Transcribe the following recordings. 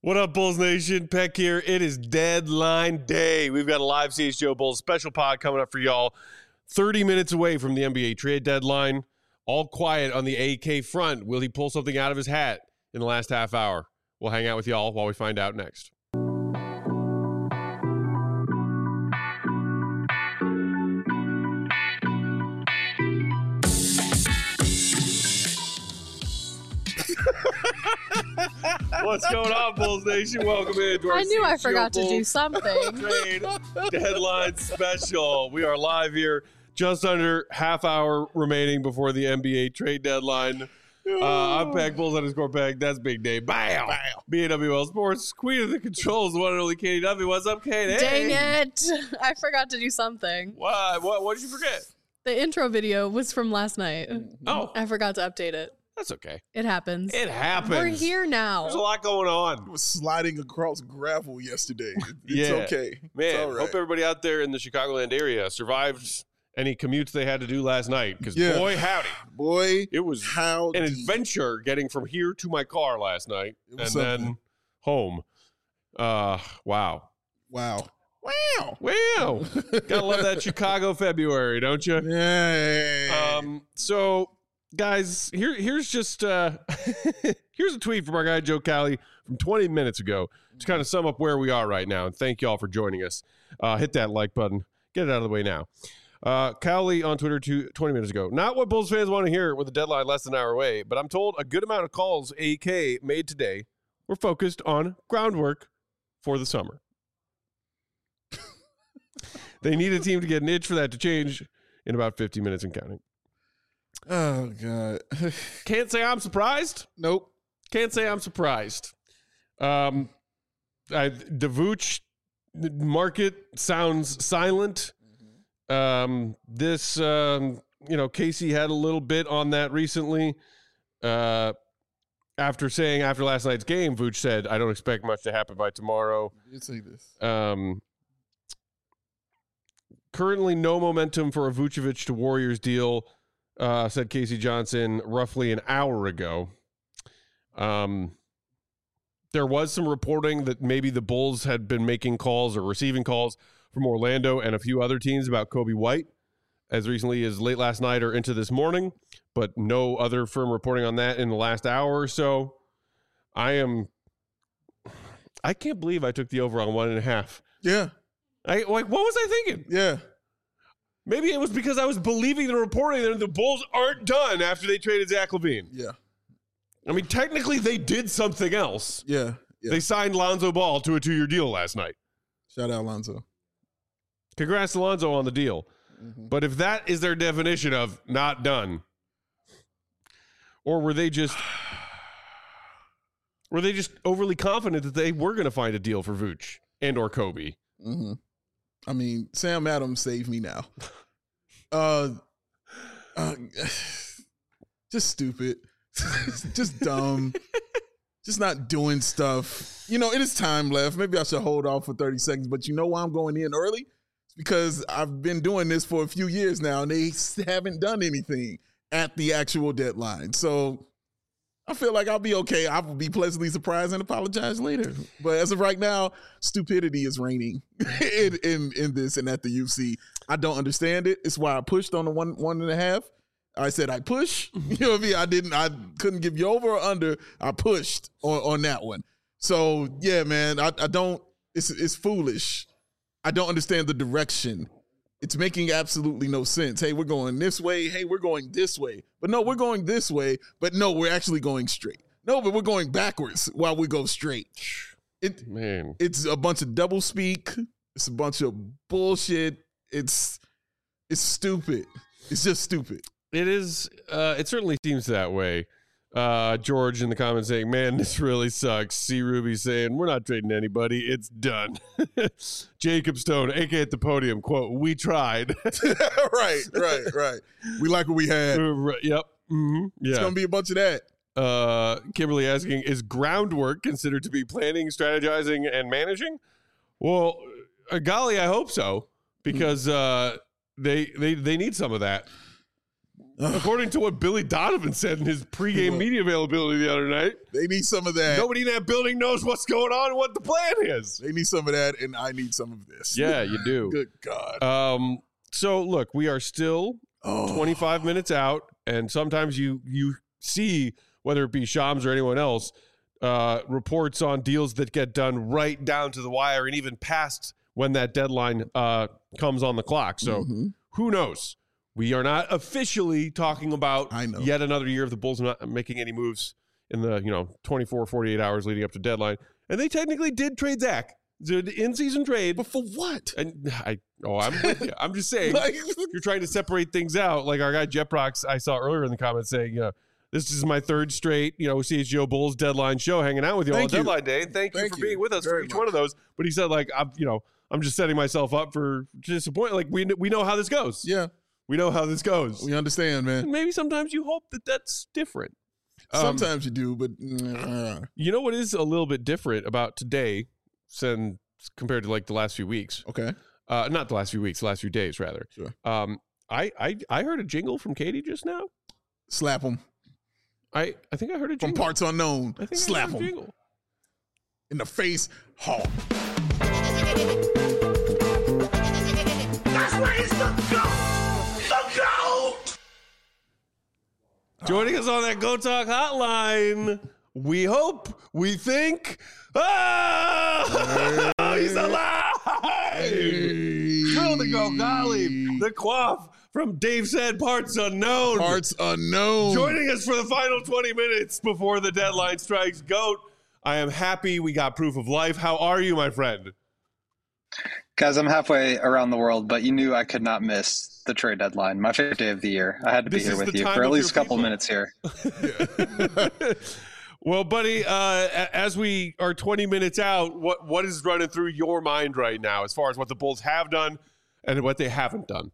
What up, Bulls Nation? Peck here. It is deadline day. We've got a live CHGO Bulls special pod coming up for y'all. 30 minutes away from the NBA trade deadline. All quiet on the AK front. Will he pull something out of his hat in the last half hour? We'll hang out with y'all while we find out next. What's going on, Bulls Nation? Welcome in to our I knew I forgot Bulls to do something. Trade deadline special. We are live here, just under half hour remaining before the NBA trade deadline. I'm Peck, Bulls_Peck. That's Big Day. Bam! BAWL Sports, Queen of the Controls, the one and only Katie W. What's up, Katie? Dang it. I forgot to do something. What did you forget? The intro video was from last night. Oh. I forgot to update it. That's okay. It happens. It happens. We're here now. There's a lot going on. I was sliding across gravel yesterday. It's Yeah. okay. Man, it's all right. hope everybody out there in the Chicagoland area survived any commutes they had to do last night. Because Yeah. boy, howdy. Boy, It was howdy. an adventure getting from here to my car last night It and was then something. home. Wow. Wow. Wow. Gotta love that Chicago February, don't you? Yeah. So guys, here's just here's a tweet from our guy Joe Cali from 20 minutes ago to kind of sum up where we are right now. And thank y'all for joining us. Hit that like button. Get it out of the way now. Cowley on Twitter 20 minutes ago. Not what Bulls fans want to hear with the deadline less than an hour away, but I'm told a good amount of calls AK made today were focused on groundwork for the summer. They need a team to get an itch for that to change in about 50 minutes and counting. Oh, God. Can't say I'm surprised. Nope. Can't say I'm surprised. The Vooch market sounds silent. Casey had a little bit on that recently. After last night's game, Vooch said, I don't expect much to happen by tomorrow. You say this. Currently no momentum for a Vucevic to Warriors deal, said Casey Johnson roughly an hour ago. There was some reporting that maybe the Bulls had been making calls or receiving calls from Orlando and a few other teams about Kobe White as recently as late last night or into this morning, but no other firm reporting on that in the last hour or so. I can't believe I took the over on 1.5. Yeah. What was I thinking? Yeah. Maybe it was because I was believing the reporting that the Bulls aren't done after they traded Zach LaVine. Yeah. I mean, technically, they did something else. Yeah. They signed Lonzo Ball to a 2-year deal last night. Shout out, Lonzo. Congrats to Lonzo on the deal. Mm-hmm. But if that is their definition of not done, or were they just overly confident that they were going to find a deal for Vooch and or Kobe? Mm-hmm. I mean, Sam Adams saved me now. Just stupid. Just dumb. Just not doing stuff. You know, it is time left. Maybe I should hold off for 30 seconds, but you know why I'm going in early? It's because I've been doing this for a few years now, and they haven't done anything at the actual deadline. So I feel like I'll be okay. I will be pleasantly surprised and apologize later. But as of right now, stupidity is reigning in this and at the UC. I don't understand it. It's why I pushed on the 1.5. I said I push. You know what I mean? I couldn't give you over or under. I pushed on that one. So yeah, man, I don't. It's foolish. I don't understand the direction. It's making absolutely no sense. Hey, we're going this way. Hey, we're going this way. But no, we're going this way. But no, we're actually going straight. No, but we're going backwards while we go straight. It's a bunch of double speak. It's a bunch of bullshit. It's stupid. It's just stupid. It is. It certainly seems that way. George in the comments saying, man, this really sucks. C. Ruby saying, we're not trading anybody. It's done. Jacob Stone, AK at the podium, quote, we tried. Right. We like what we had. Yep. Mm-hmm. Yeah. It's going to be a bunch of that. Kimberly asking, is groundwork considered to be planning, strategizing, and managing? Well, golly, I hope so, because they need some of that. According to what Billy Donovan said in his pregame media availability the other night. They need some of that. Nobody in that building knows what's going on and what the plan is. They need some of that, and I need some of this. Yeah, you do. Good God. So, look, we are still 25 minutes out, and sometimes you see, whether it be Shams or anyone else, reports on deals that get done right down to the wire and even past when that deadline comes on the clock. So who knows? We are not officially talking about yet another year of the Bulls not making any moves in the 24, 48 hours leading up to deadline. And they technically did trade Zach. The in-season trade. But for what? And I'm with you. I'm just saying, you're trying to separate things out. Like our guy Jeprox, I saw earlier in the comments saying, this is my third straight, CHGO Bulls deadline show, hanging out with you all on deadline day. And thank you for being with us for each one of those. But he said, I'm just setting myself up for disappointment. Like we know how this goes. Yeah. We know how this goes. We understand, man. And maybe sometimes you hope that that's different. Sometimes you do, but you know what is a little bit different about today compared to like the last few weeks? Okay. Not the last few weeks, the last few days rather. Sure. I heard a jingle from Katie just now. Slap him. I think I heard a jingle. From Parts Unknown. I think Slap I heard a him. jingle. In the face. Hard. That's where he's the GOAT! The GOAT! Joining us on that Go Talk hotline, we hope, we think, he's alive! Throw the Go Golly, the quaff from Dave Said Parts Unknown. Parts Unknown. Joining us for the final 20 minutes before the deadline strikes. Goat, I am happy we got proof of life. How are you, my friend? Guys, I'm halfway around the world, but you knew I could not miss the trade deadline. My favorite day of the year. I had to be here with you for at least a couple minutes here. Well, buddy, as we are 20 minutes out, what is running through your mind right now as far as what the Bulls have done and what they haven't done?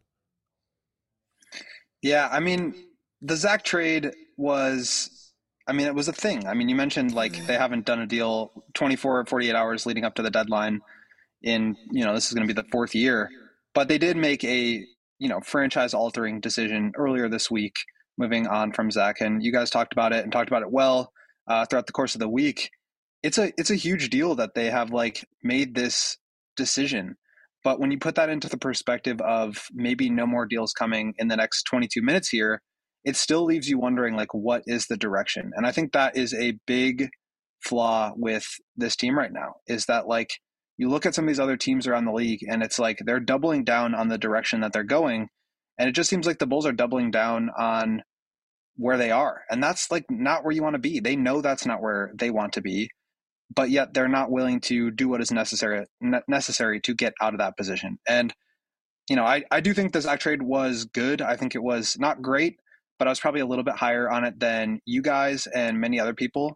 Yeah, I mean, the Zach trade was, it was a thing. I mean, you mentioned like they haven't done a deal 24 or 48 hours leading up to the deadline in, this is going to be the fourth year. But they did make a, franchise-altering decision earlier this week, moving on from Zach. And you guys talked about it and talked about it well throughout the course of the week. It's a huge deal that they have made this decision. But when you put that into the perspective of maybe no more deals coming in the next 22 minutes here, it still leaves you wondering, what is the direction? And I think that is a big flaw with this team right now, is that, you look at some of these other teams around the league and it's they're doubling down on the direction that they're going. And it just seems like the Bulls are doubling down on where they are. And that's not where you want to be. They know that's not where they want to be, but yet they're not willing to do what is necessary to get out of that position. And, I do think the Zach trade was good. I think it was not great, but I was probably a little bit higher on it than you guys and many other people.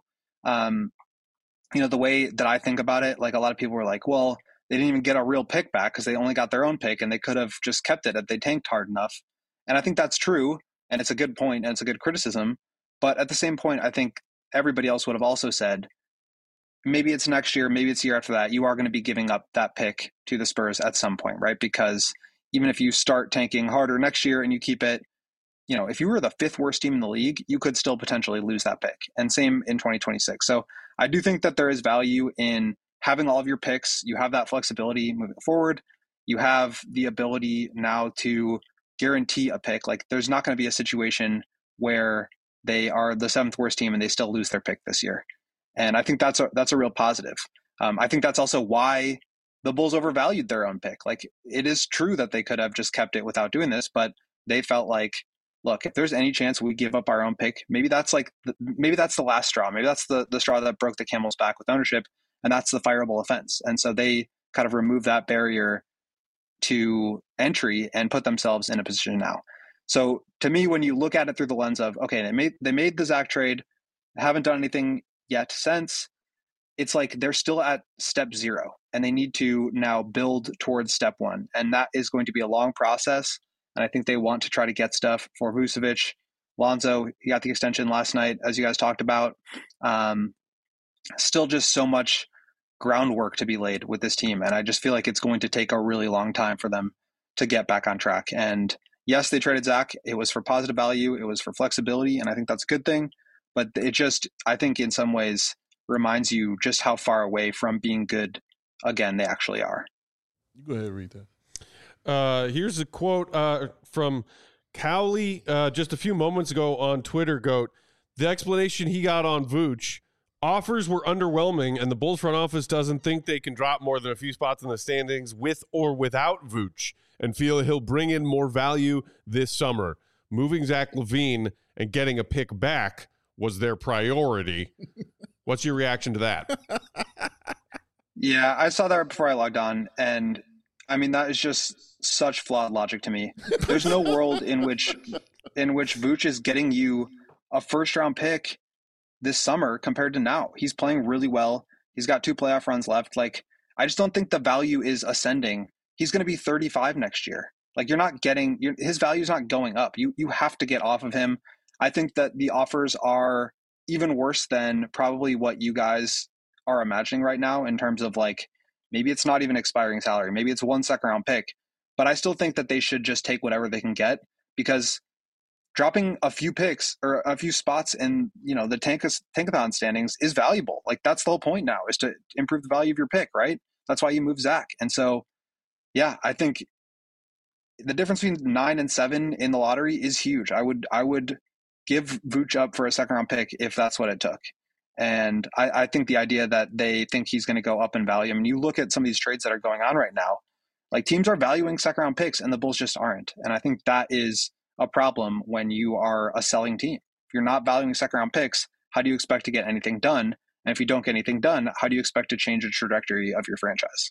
The way that I think about it, a lot of people were like, well, they didn't even get a real pick back because they only got their own pick and they could have just kept it if they tanked hard enough. And I think that's true. And it's a good point and it's a good criticism. But at the same point, I think everybody else would have also said, maybe it's next year, maybe it's the year after that, you are going to be giving up that pick to the Spurs at some point, right? Because even if you start tanking harder next year and you keep it, if you were the fifth worst team in the league, you could still potentially lose that pick. And same in 2026. So I do think that there is value in having all of your picks. You have that flexibility moving forward. You have the ability now to guarantee a pick. There's not going to be a situation where they are the seventh worst team and they still lose their pick this year. And I think that's a real positive. I think that's also why the Bulls overvalued their own pick. It is true that they could have just kept it without doing this, but they felt look, if there's any chance we give up our own pick, maybe that's the last straw. Maybe that's the straw that broke the camel's back with ownership, and that's the fireable offense. And so they kind of removed that barrier to entry and put themselves in a position now. So to me, when you look at it through the lens of, okay, they made the Zach trade, haven't done anything yet since, it's they're still at step 0 and they need to now build towards step 1. And that is going to be a long process. And I think they want to try to get stuff for Vucevic. Lonzo, he got the extension last night, as you guys talked about. Still just so much groundwork to be laid with this team. And I just feel like it's going to take a really long time for them to get back on track. And, yes, they traded Zach. It was for positive value. It was for flexibility. And I think that's a good thing. But it just, I think in some ways reminds you just how far away from being good again they actually are. You go ahead and read that. Here's a quote from Cowley just a few moments ago on Twitter, Goat. The explanation he got on Vooch: offers were underwhelming, and the Bulls front office doesn't think they can drop more than a few spots in the standings with or without Vooch, and feel he'll bring in more value this summer. Moving Zach LaVine and getting a pick back was their priority. What's your reaction to that? Yeah, I saw that before I logged on, and I mean that is just such flawed logic to me. There's no world in which Vooch is getting you a first round pick this summer compared to now. He's playing really well. He's got 2 playoff runs left. Like, I just don't think the value is ascending. He's going to be 35 next year. Like, you're not getting his value is not going up. You have to get off of him. I think that the offers are even worse than probably what you guys are imagining right now in terms of, like, maybe it's not even expiring salary. Maybe it's 1 second round pick. But I still think that they should just take whatever they can get, because dropping a few picks or a few spots in, the tankathon standings is valuable. Like, that's the whole point now, is to improve the value of your pick, right? That's why you move Zach. And so, yeah, I think the difference between 9 and 7 in the lottery is huge. I would give Vooch up for a second round pick if that's what it took. And I think the idea that they think he's going to go up in value. I mean, you look at some of these trades that are going on right now, like, teams are valuing second round picks and the Bulls just aren't. And I think that is a problem when you are a selling team. If you're not valuing second round picks, how do you expect to get anything done? And if you don't get anything done, how do you expect to change the trajectory of your franchise?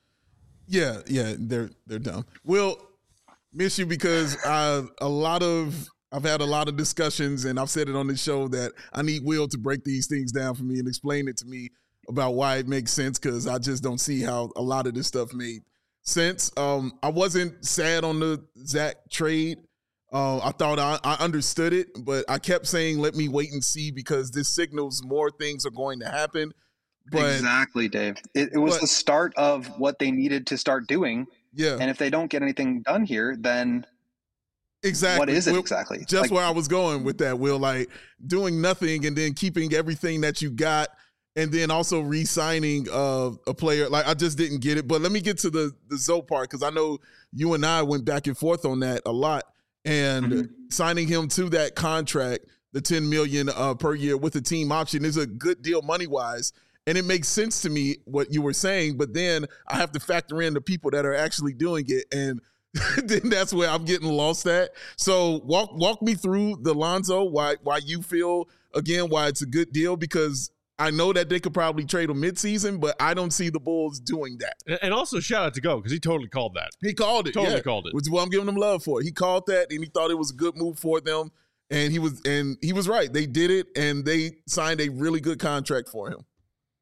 Yeah, they're dumb. We'll miss you because I've had a lot of discussions, and I've said it on the show that I need Will to break these things down for me and explain it to me about why it makes sense, because I just don't see how a lot of this stuff made sense. I wasn't sad on the Zach trade. I thought I understood it, but I kept saying, let me wait and see, because this signals more things are going to happen. But, exactly, Dave. It was the start of what they needed to start doing. Yeah. And if they don't get anything done here, then exactly. What is it exactly? Just where I was going with that, Will, like doing nothing and then keeping everything that you got, and then also re-signing a player. Like, I just didn't get it. But let me get to the Zoe part, because I know you and I went back and forth on that a lot. And signing him to that contract, the $10 million per year with a team option, is a good deal money-wise. And it makes sense to me what you were saying, but then I have to factor in the people that are actually doing it, and then that's where I'm getting lost at. So walk me through the Lonzo, why you feel, again, why it's a good deal, because I know that they could probably trade him midseason, but I don't see the Bulls doing that. And also shout out to Go, because he totally called that. He called it. Totally called it. Which is what I'm giving him love for. He called that, and he thought it was a good move for them, and he was right. They did it, and they signed a really good contract for him.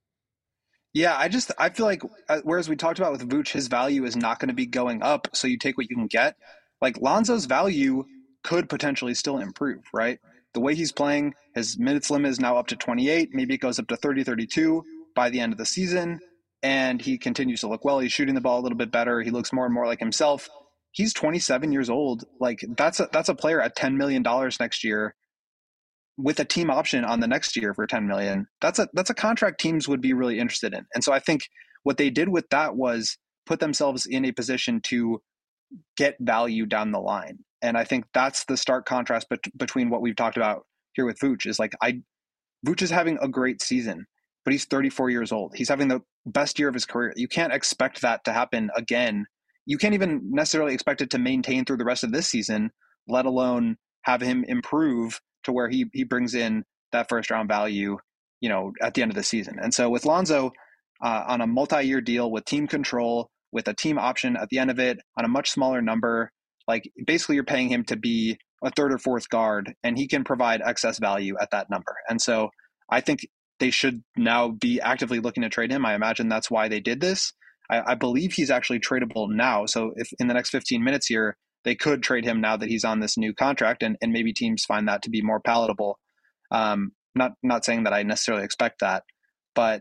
Yeah, I feel like, whereas we talked about with Vooch, his value is not going to be going up, so you take what you can get. Like, Lonzo's value could potentially still improve, right? The way he's playing, his minutes limit is now up to 28. Maybe it goes up to 30, 32 by the end of the season, and he continues to look well. He's shooting the ball a little bit better. He looks more and more like himself. He's 27 years old. Like, that's a player at $10 million next year, with a team option on the next year for $10 million. That's a contract teams would be really interested in. And so I think what they did with that was put themselves in a position to get value down the line. And I think that's the stark contrast between what we've talked about here with Vooch, is like, Vooch is having a great season, but he's 34 years old. He's having the best year of his career. You can't expect that to happen again. You can't even necessarily expect it to maintain through the rest of this season, let alone have him improve to where he brings in that first round value, at the end of the season. And so with Lonzo, on a multi-year deal with team control, with a team option at the end of it, on a much smaller number, like, basically you're paying him to be a third or fourth guard, and he can provide excess value at that number. And so I think they should now be actively looking to trade him. I imagine that's why they did this. I believe he's actually tradable now. So if in the next 15 minutes here, they could trade him now that he's on this new contract, and maybe teams find that to be more palatable. Not saying that I necessarily expect that, but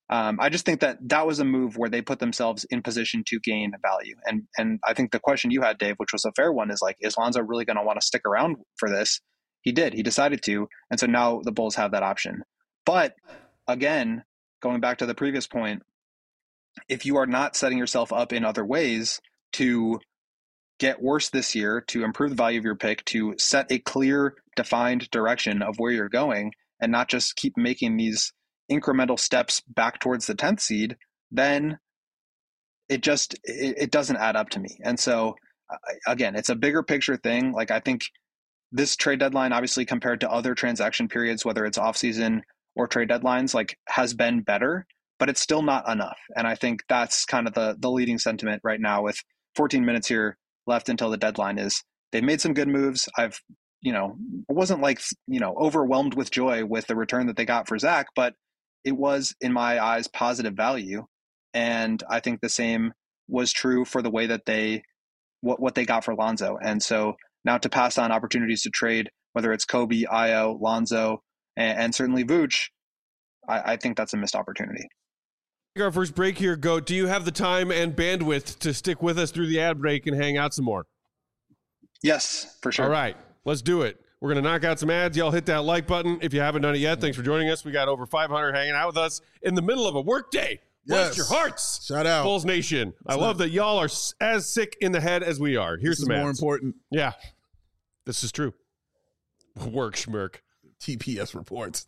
I just think that was a move where they put themselves in position to gain value. And I think the question you had, Dave, which was a fair one, is like, is Lonzo really going to want to stick around for this? He did. He decided to. And so now the Bulls have that option. But again, going back to the previous point, if you are not setting yourself up in other ways to get worse this year, to improve the value of your pick, to set a clear, defined direction of where you're going, and not just keep making these incremental steps back towards the 10th seed, then it doesn't add up to me. And so again, it's a bigger picture thing. Like, I think this trade deadline, obviously compared to other transaction periods, whether it's offseason or trade deadlines, like, has been better, but it's still not enough. And I think that's kind of the leading sentiment right now, with 14 minutes here left until the deadline, is they've made some good moves. I wasn't like, overwhelmed with joy with the return that they got for Zach, but it was, in my eyes, positive value. And I think the same was true for the way that what they got for Lonzo. And so now to pass on opportunities to trade, whether it's Kobe, Ayo, Lonzo, and certainly Vooch, I think that's a missed opportunity. Our first break here, Goat. Do you have the time and bandwidth to stick with us through the ad break and hang out some more? Yes, for sure. All right, let's do it. We're going to knock out some ads. Y'all hit that like button if you haven't done it yet. Thanks for joining us. We got over 500 hanging out with us in the middle of a work day. Bless your hearts. Shout out. Bulls Nation. I love that y'all are as sick in the head as we are. Here's some ads. More important. Yeah, this is true. Work, schmirk. TPS reports.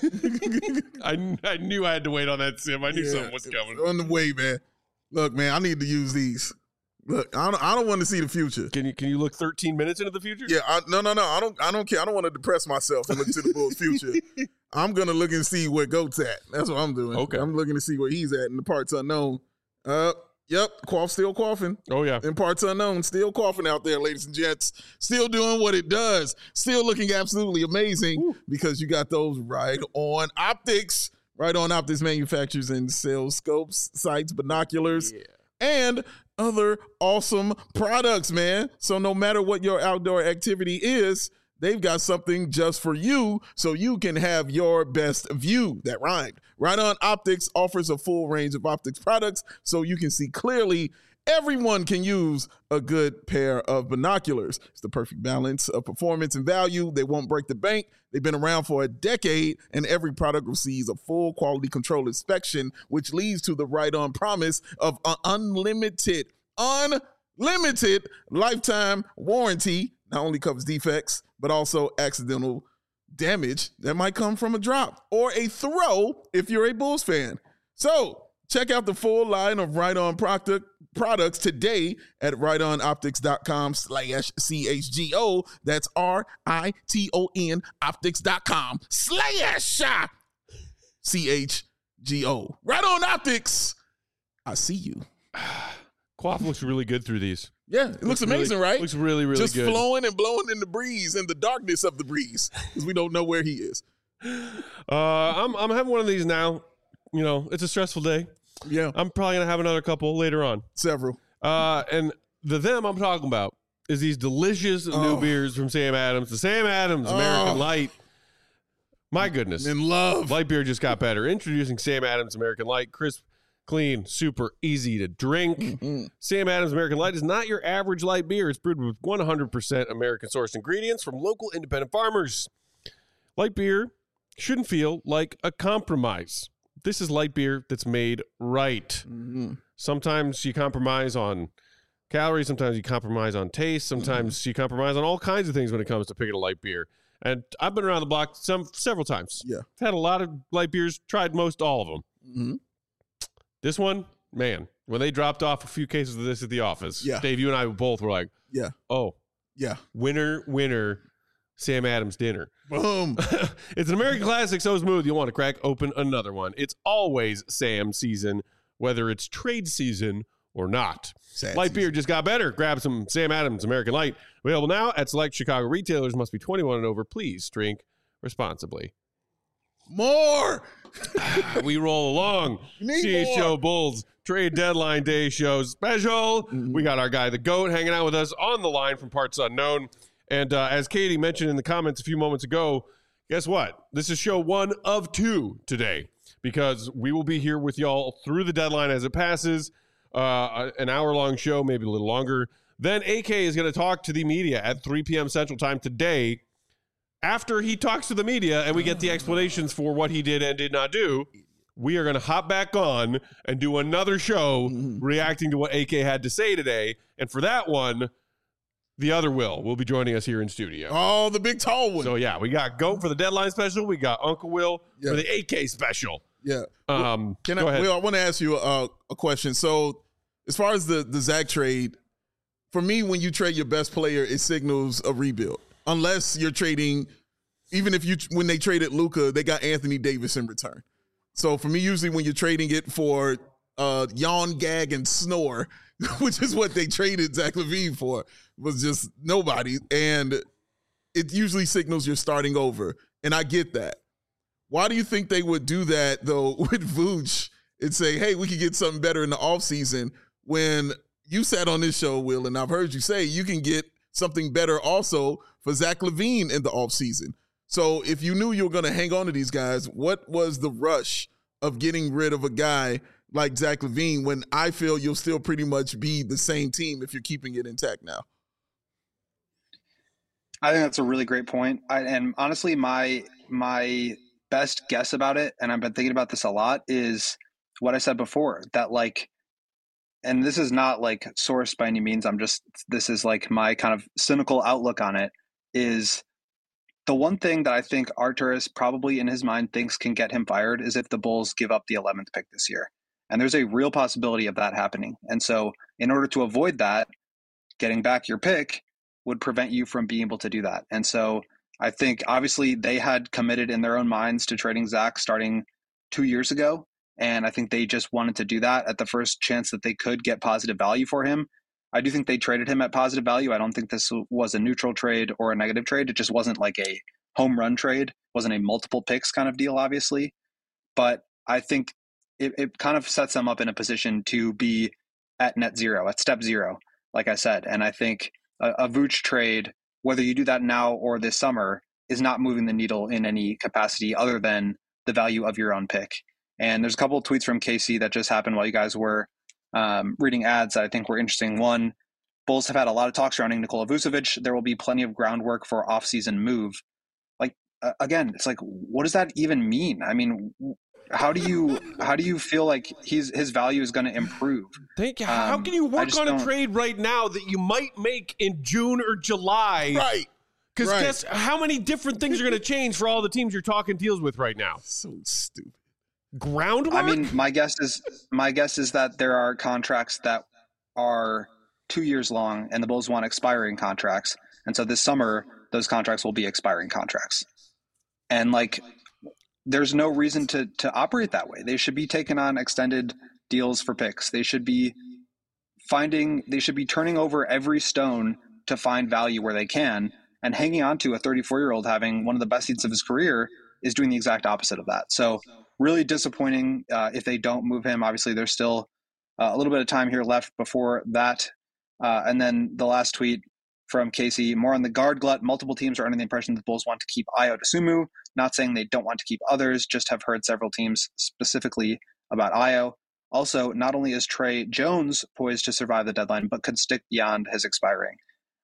I knew I had to wait on that, Sim. I knew something was coming. On the way, man. Look, man, I need to use these. Look, I don't want to see the future. Can you look 13 minutes into the future? Yeah, no. I don't care. I don't want to depress myself and look to the Bulls' future. I'm gonna look and see where Goat's at. That's what I'm doing. Okay. I'm looking to see where he's at in the parts unknown. Yep, still coughing. Oh yeah. In parts unknown, still coughing out there, ladies and gents. Still doing what it does. Still looking absolutely amazing because you got those Right On Optics. Right On Optics manufactures and sells scopes, sights, binoculars, and other awesome products, man. So no matter what your outdoor activity is, they've got something just for you so you can have your best view. That rhymed. Right On Optics offers a full range of optics products so you can see clearly. Everyone can use a good pair of binoculars. It's the perfect balance of performance and value. They won't break the bank. They've been around for a decade, and every product receives a full quality control inspection, which leads to the Right On promise of an unlimited lifetime warranty. Not only covers defects, but also accidental damage that might come from a drop or a throw if you're a Bulls fan. So check out the full line of Right On products today at rightonoptics.com/CHGO. That's RITON optics.com/CHGO. Right On Optics. I see you. Quaff looks really good through these. Yeah, it looks amazing, right? Looks really, really just good. Just flowing and blowing in the breeze, in the darkness of the breeze, because we don't know where he is. I'm having one of these now. You know, it's a stressful day. Yeah. I'm probably going to have another couple later on. Several. And them I'm talking about is these delicious new beers from Sam Adams. The Sam Adams American Light. My goodness. In love. Light beer just got better. Introducing Sam Adams American Light. Crisp, clean, super easy to drink. Mm-hmm. Sam Adams American Light is not your average light beer. It's brewed with 100% American-sourced ingredients from local independent farmers. Light beer shouldn't feel like a compromise. This is light beer that's made right. Mm-hmm. Sometimes you compromise on calories. Sometimes you compromise on taste. Sometimes you compromise on all kinds of things when it comes to picking a light beer. And I've been around the block several times. Yeah. I've had a lot of light beers, tried most all of them. Mm-hmm. This one, man, when they dropped off a few cases of this at the office, Dave, you and I both were like, winner, Sam Adams dinner. Boom. It's an American classic so smooth you'll want to crack open another one. It's always Sam season, whether it's trade season or not. Light beer just got better. Grab some Sam Adams American Light. Available now at select Chicago retailers. Must be 21 and over. Please drink responsibly. More. We roll along. CHO Bulls trade deadline day show special. Mm-hmm. We got our guy, the GOAT, hanging out with us on the line from Parts Unknown. And as Katie mentioned in the comments a few moments ago, guess what? This is show 1 of 2 today because we will be here with y'all through the deadline as it passes. An hour-long show, maybe a little longer. Then AK is going to talk to the media at 3 p.m. Central Time today. After he talks to the media and we get the explanations for what he did and did not do, we are going to hop back on and do another show reacting to what AK had to say today. And for that one, the other will be joining us here in studio. Oh, the big tall one. So, yeah, we got Goat for the deadline special. We got Uncle Will for the AK special. Yeah. Go ahead. Will, I want to ask you a question. So, as far as the Zach trade, for me, when you trade your best player, it signals a rebuild. Unless you're trading, when they traded Luka, they got Anthony Davis in return. So for me, usually when you're trading it for yawn, gag, and snore, which is what they traded Zach LaVine for, was just nobody. And it usually signals you're starting over. And I get that. Why do you think they would do that, though, with Vooch and say, hey, we could get something better in the offseason, when you sat on this show, Will, and I've heard you say you can get something better also for Zach LaVine in the offseason. So if you knew you were going to hang on to these guys, what was the rush of getting rid of a guy like Zach LaVine when I feel you'll still pretty much be the same team if you're keeping it intact now? I think that's a really great point. And honestly, my best guess about it, and I've been thinking about this a lot, is what I said before, that like, and this is not like sourced by any means, this is like my kind of cynical outlook on it, is the one thing that I think Arturas probably in his mind thinks can get him fired is if the Bulls give up the 11th pick this year. And there's a real possibility of that happening. And so in order to avoid that, getting back your pick would prevent you from being able to do that. And so I think obviously they had committed in their own minds to trading Zach starting 2 years ago. And I think they just wanted to do that at the first chance that they could get positive value for him. I do think they traded him at positive value. I don't think this was a neutral trade or a negative trade. It just wasn't like a home run trade. It wasn't a multiple picks kind of deal, obviously. But I think it kind of sets them up in a position to be at net zero, at step zero, like I said. And I think a Vooch trade, whether you do that now or this summer, is not moving the needle in any capacity other than the value of your own pick. And there's a couple of tweets from Casey that just happened while you guys were reading ads that I think were interesting. One, Bulls have had a lot of talk surrounding Nikola Vucevic. There will be plenty of groundwork for off-season move. Like, again, it's like, what does that even mean? I mean, how do you feel like his value is going to improve? How can you work on a trade right now that you might make in June or July? Right. Because guess how many different things are going to change for all the teams you're talking deals with right now? So stupid. Groundwork? I mean, my guess is that there are contracts that are 2 years long and the Bulls want expiring contracts. And so this summer, those contracts will be expiring contracts. And like, there's no reason to operate that way. They should be taking on extended deals for picks. They should be turning over every stone to find value where they can, and hanging on to a 34-year-old having one of the best seasons of his career is doing the exact opposite of that. So really disappointing if they don't move him. Obviously, there's still a little bit of time here left before that. And then the last tweet from Casey, more on the guard glut. Multiple teams are under the impression that the Bulls want to keep Ayo Dosunmu. Not saying they don't want to keep others, just have heard several teams specifically about Ayo. Also, not only is Trey Jones poised to survive the deadline, but could stick beyond his expiring.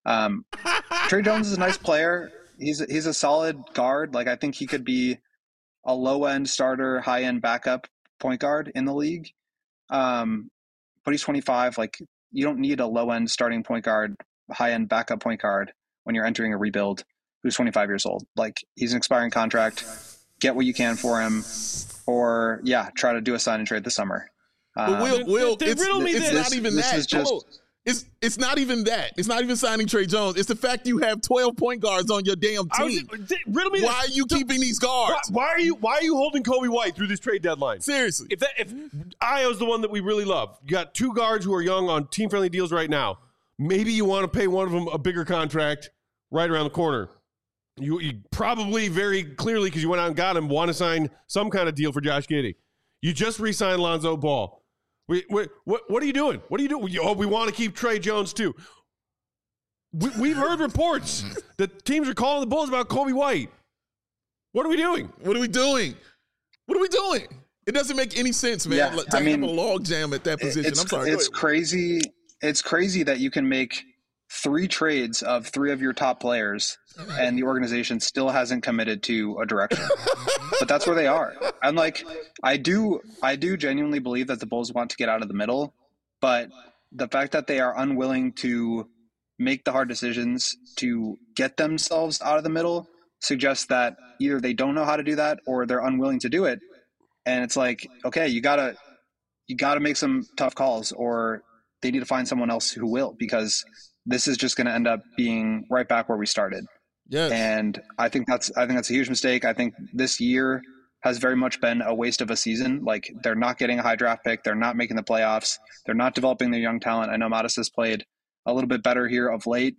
Trey Jones is a nice player. He's a solid guard. Like, I think he could be a low-end starter, high-end backup point guard in the league. But he's 25. Like, you don't need a low-end starting point guard, high-end backup point guard when you're entering a rebuild who's 25 years old. Like, he's an expiring contract. Get what you can for him, or try to do a sign and trade this summer. But Will, it's not even that. It's not even that. It's not even signing Trey Jones. It's the fact you have 12 point guards on your damn team. Why are you keeping these guards? Why are you holding Kobe White through this trade deadline? Seriously. If Ayo's the one that we really love, you got two guards who are young on team-friendly deals right now. Maybe you want to pay one of them a bigger contract right around the corner. You probably very clearly, because you went out and got him, want to sign some kind of deal for Josh Giddey. You just re-signed Lonzo Ball. What are you doing? What are you doing? Oh, we want to keep Trey Jones too. We've heard reports that teams are calling the Bulls about Kobe White. What are we doing? What are we doing? What are we doing? It doesn't make any sense, man. Yeah, Like, to have a log jam at that position. I'm sorry. It's crazy. It's crazy that you can make 3 trades of 3 of your top players, and the organization still hasn't committed to a direction. But that's where they are. I'm like, I do genuinely believe that the Bulls want to get out of the middle, but the fact that they are unwilling to make the hard decisions to get themselves out of the middle suggests that either they don't know how to do that or they're unwilling to do it. And it's like, okay, you gotta make some tough calls, or they need to find someone else who will, because this is just going to end up being right back where we started. Yes. And I think that's a huge mistake. I think this year has very much been a waste of a season. Like, they're not getting a high draft pick. They're not making the playoffs. They're not developing their young talent. I know Modest has played a little bit better here of late.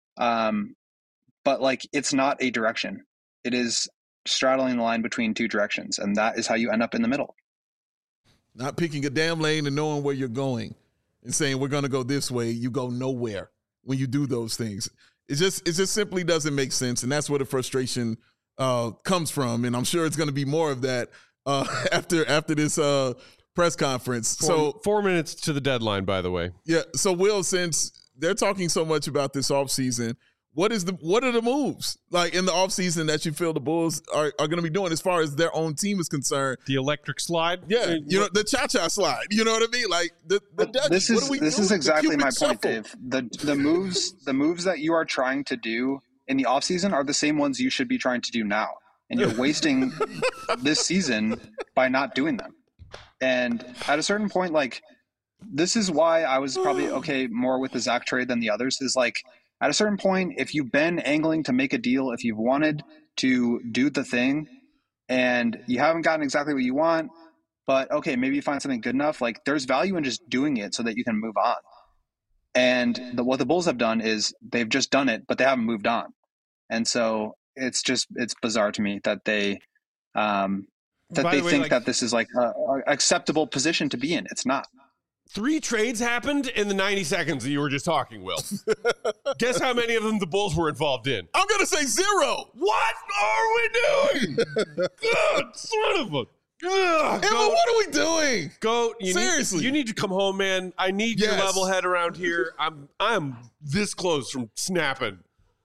But like, it's not a direction. It is straddling the line between 2 directions, and that is how you end up in the middle. Not picking a damn lane and knowing where you're going and saying we're going to go this way. You go nowhere when you do those things. It just simply doesn't make sense, and that's where the frustration comes from. And I'm sure it's going to be more of that after this press conference. So 4 minutes to the deadline, by the way. Yeah. So Will, since they're talking so much about this offseason, what are the moves like in the offseason that you feel the Bulls are going to be doing as far as their own team is concerned? The electric slide? Yeah, the cha-cha slide. You know what I mean? Like this is exactly my point, shuffle. Dave. The moves that you are trying to do in the offseason are the same ones you should be trying to do now. And you're wasting this season by not doing them. And at a certain point, like, this is why I was probably okay more with the Zach trade than the others, is like, at a certain point, if you've been angling to make a deal, if you've wanted to do the thing and you haven't gotten exactly what you want, but okay, maybe you find something good enough, like, there's value in just doing it so that you can move on. And what the Bulls have done is they've just done it, but they haven't moved on. And so it's bizarre to me that they think that this is like a acceptable position to be in. It's not. 3 trades happened in the 90 seconds that you were just talking, Will. Guess how many of them the Bulls were involved in? I'm going to say 0. What are we doing? God, son of a... Emma, what are we doing? Seriously. You need to come home, man. I need your level head around here. I'm this close from snapping.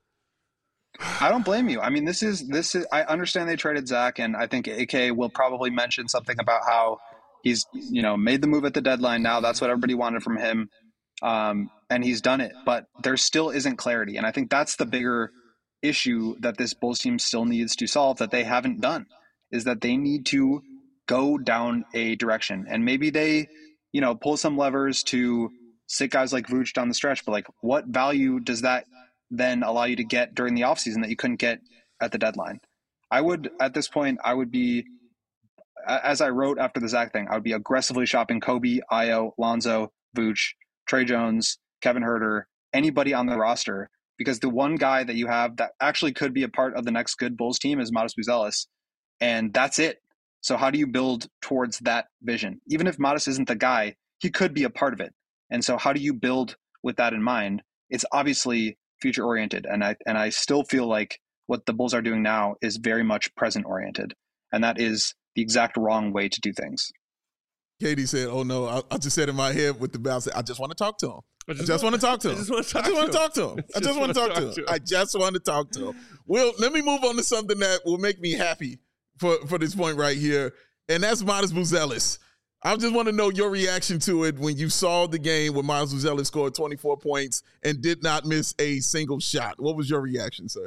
I don't blame you. I mean, this is. I understand they traded Zach, and I think AK will probably mention something about how he's, made the move at the deadline now. That's what everybody wanted from him. And he's done it, but there still isn't clarity. And I think that's the bigger issue that this Bulls team still needs to solve, that they haven't done, is that they need to go down a direction. And maybe they, pull some levers to sit guys like Vooch down the stretch, but like, what value does that then allow you to get during the offseason that you couldn't get at the deadline? At this point, I would be, as I wrote after the Zach thing, I would be aggressively shopping Kobe, Ayo, Lonzo, Vooch, Trey Jones, Kevin Huerter, anybody on the roster, because the one guy that you have that actually could be a part of the next good Bulls team is Modest Buzelis, and that's it. So how do you build towards that vision? Even if Modest isn't the guy, he could be a part of it. And so how do you build with that in mind? It's obviously future oriented, and I still feel like what the Bulls are doing now is very much present oriented, and that is the exact wrong way to do things. Katie said, "Oh no, I just said in my head with the bounce, I just want to talk to him. I just want to talk to him. I just want to talk to him. I just want to talk to him. I just want to talk to him." Well, let me move on to something that will make me happy for this point right here, and that's Modest Buzelis. I just want to know your reaction to it when you saw the game when Modest Buzelis scored 24 points and did not miss a single shot. What was your reaction, sir?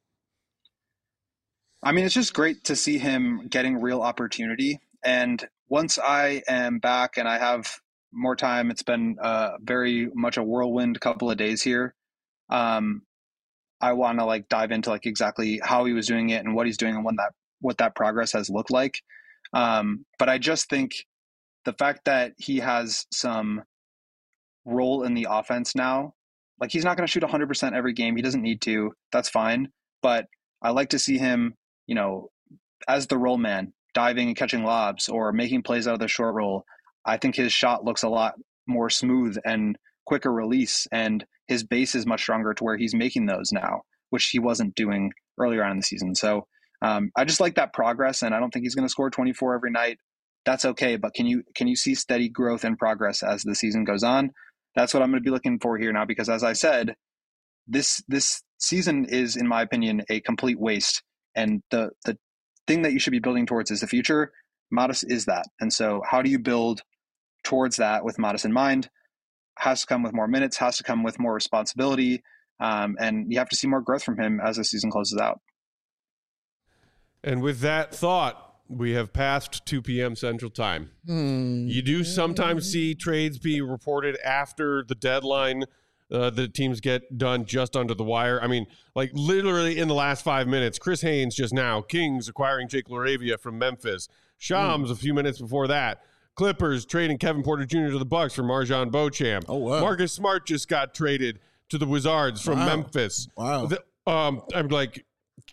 I mean, it's just great to see him getting real opportunity. And once I am back and I have more time, it's been very much a whirlwind couple of days here. I want to dive into exactly how he was doing it and what he's doing and what that progress has looked like. But I just think the fact that he has some role in the offense now, he's not going to shoot 100% every game. He doesn't need to. That's fine. But I like to see him, as the roll man, diving and catching lobs or making plays out of the short roll. I think his shot looks a lot more smooth and quicker release, and his base is much stronger to where he's making those now, which he wasn't doing earlier on in the season. So I just like that progress, and I don't think he's going to score 24 every night. that's okay. But can you see steady growth and progress as the season goes on? That's what I'm going to be looking for here now, because as I said, this season is, in my opinion, a complete waste. And the thing that you should be building towards is the future. Modest is that. And so how do you build towards that with Modest in mind? Has to come with more minutes, has to come with more responsibility. And you have to see more growth from him as the season closes out. And with that thought, we have passed 2 p.m. Central Time. You do sometimes see trades be reported after the deadline. The teams get done just under the wire. I mean, like literally in the last 5 minutes, Chris Haynes just now, Kings acquiring Jake LaRavia from Memphis. Shams a few minutes before that. Clippers trading Kevin Porter Jr. to the Bucks for Marjon Beauchamp. Oh, wow. Marcus Smart just got traded to the Wizards from Memphis. Wow. I'm like,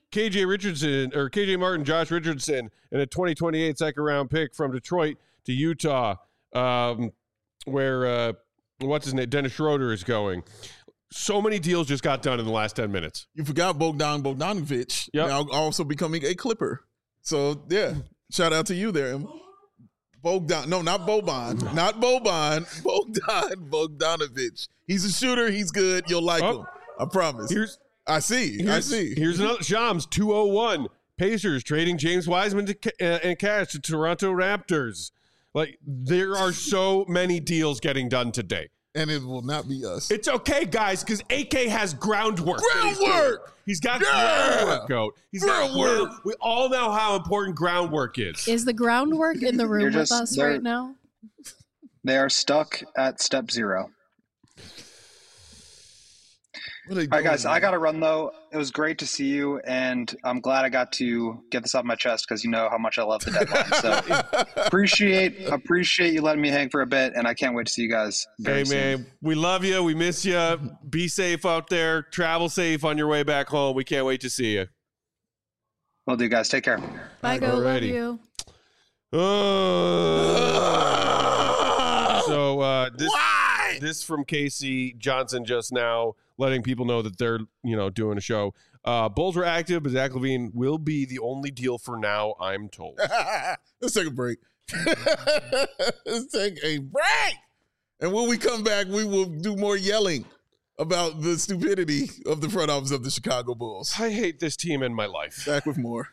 KJ Martin, Josh Richardson, and a 2028 second round pick from Detroit to Utah, where what's his name, Dennis Schroeder is going. So many deals just got done in the last 10 minutes. You forgot Bogdanovic, now also becoming a Clipper. So yeah, shout out to you there, Emma. Bogdanovic. He's a shooter. He's good. You'll like him. I promise. I see. Here's another Shams 201. Pacers trading James Wiseman and cash to Toronto Raptors. Like, there are so many deals getting done today. And it will not be us. It's okay, guys, because AK has groundwork. He's got groundwork, Goat. He's got groundwork. We all know how important groundwork is. Is the groundwork in the room with us right now? They are stuck at step 0. All right, guys, I got to run, though. It was great to see you, and I'm glad I got to get this off my chest because you know how much I love the deadline. So appreciate you letting me hang for a bit, and I can't wait to see you guys very soon. Man, we love you. We miss you. Be safe out there. Travel safe on your way back home. We can't wait to see you. Will do, guys. Take care. Bye, Go. Love you. This from Casey Johnson just now, letting people know that they're, doing a show. Bulls were active, but Zach LaVine will be the only deal for now, I'm told. Let's take a break. And when we come back, we will do more yelling about the stupidity of the front office of the Chicago Bulls. I hate this team in my life. Back with more.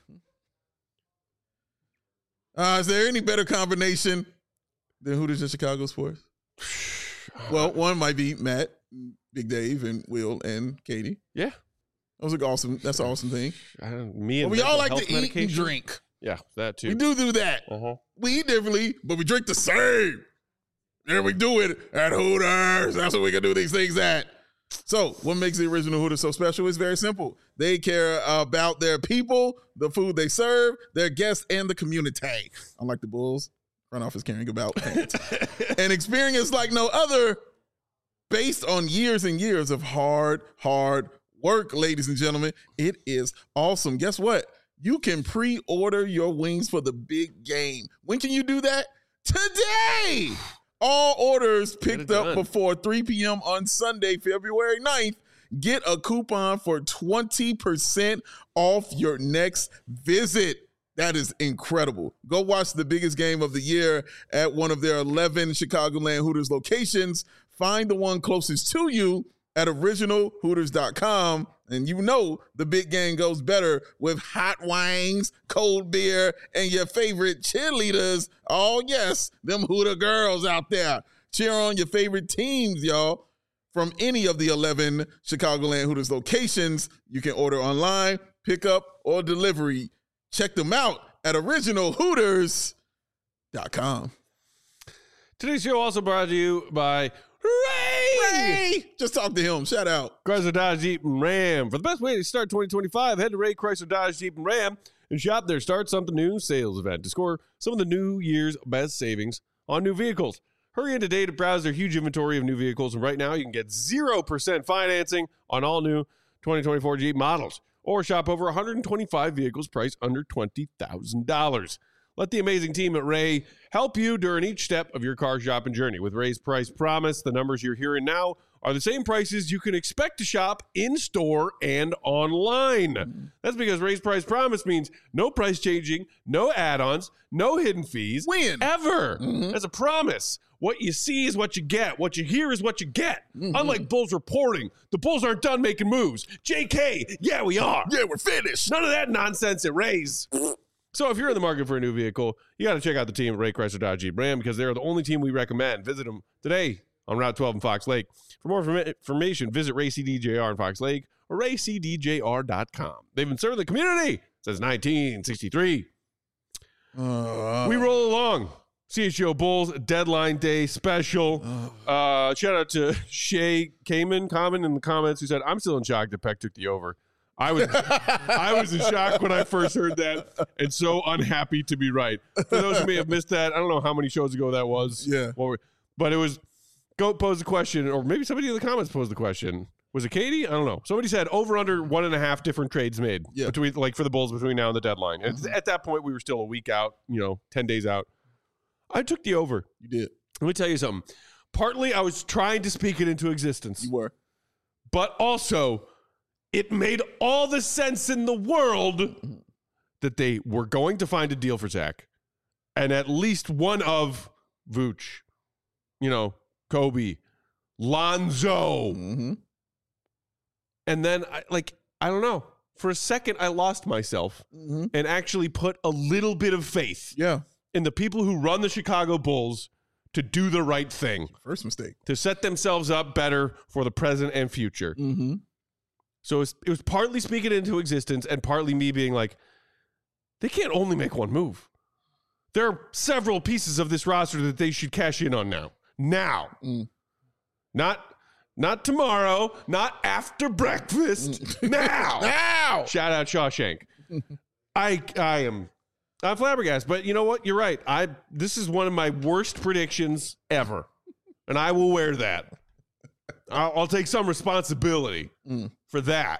Is there any better combination than Hooters and Chicago sports? Well, one might be Matt, Big Dave, and Will, and Katie. Yeah. That's an awesome thing. We all like to eat and drink. Yeah, that too. We do that. We eat differently, but we drink the same. And we do it at Hooters. That's what we can do these things at. So what makes the original Hooters so special is very simple. They care about their people, the food they serve, their guests, and the community. Unlike the Bulls, front office caring about fans. An experience like no other, based on years and years of hard work, ladies and gentlemen. It is awesome. Guess what? You can pre-order your wings for the big game. When can you do that? Today! All orders picked up before 3 p.m. on Sunday, February 9th. Get a coupon for 20% off your next visit. That is incredible. Go watch the biggest game of the year at one of their 11 Chicagoland Hooters locations. Find the one closest to you at originalhooters.com. And you know the big game goes better with hot wings, cold beer, and your favorite cheerleaders. Oh, yes, them Hooter girls out there. Cheer on your favorite teams, y'all. From any of the 11 Chicagoland Hooters locations, you can order online, pick up, or delivery. Check them out at originalhooters.com. Today's show also brought to you by Ray! Just talk to him. Shout out. Chrysler Dodge Jeep and Ram. For the best way to start 2025, head to Ray Chrysler Dodge Jeep and Ram and shop their Start Something New sales event to score some of the New Year's best savings on new vehicles. Hurry in today to browse their huge inventory of new vehicles, and right now you can get 0% financing on all new 2024 Jeep models, or shop over 125 vehicles priced under $20,000. Let the amazing team at Ray help you during each step of your car shopping journey. With Ray's Price Promise, the numbers you're hearing now are the same prices you can expect to shop in-store and online. That's because Ray's Price Promise means no price changing, no add-ons, no hidden fees. Ever. That's a promise. What you see is what you get. What you hear is what you get. Unlike Bulls reporting, the Bulls aren't done making moves. JK, yeah, we are. Yeah, we're finished. None of that nonsense at Ray's. So if you're in the market for a new vehicle, you got to check out the team at Ray Chrysler Dodge Jeep Ram because they're the only team we recommend. Visit them today on Route 12 in Fox Lake. For more information, visit Ray CDJR in Fox Lake or raycdjr.com. They've been serving the community since 1963. We roll along. CHGO Bulls Deadline Day special. Shout out to Shay Kamen in the comments who said, I'm still in shock that Peck took the over. I was in shock when I first heard that and so unhappy to be right. For those who may have missed that, I don't know how many shows ago that was. Yeah. But it was Goat posed the question, or maybe somebody in the comments posed the question. Was it Katie? I don't know. Somebody said over under 1.5 different trades made between, like, for the Bulls between now and the deadline. And at that point, we were still a week out, 10 days out. I took the over. You did. Let me tell you something. Partly, I was trying to speak it into existence. You were. But also, it made all the sense in the world that they were going to find a deal for Zach. And at least one of Vooch, Kobe, Lonzo. And then, I don't know. For a second, I lost myself and actually put a little bit of faith in the people who run the Chicago Bulls to do the right thing. First mistake. To set themselves up better for the present and future. So it was partly speaking it into existence and partly me being like, they can't only make one move. There are several pieces of this roster that they should cash in on now. Not tomorrow, not after breakfast. Now. Shout out Shawshank. I'm flabbergasted, but you know what? You're right. This is one of my worst predictions ever, and I will wear that. I'll take some responsibility for that.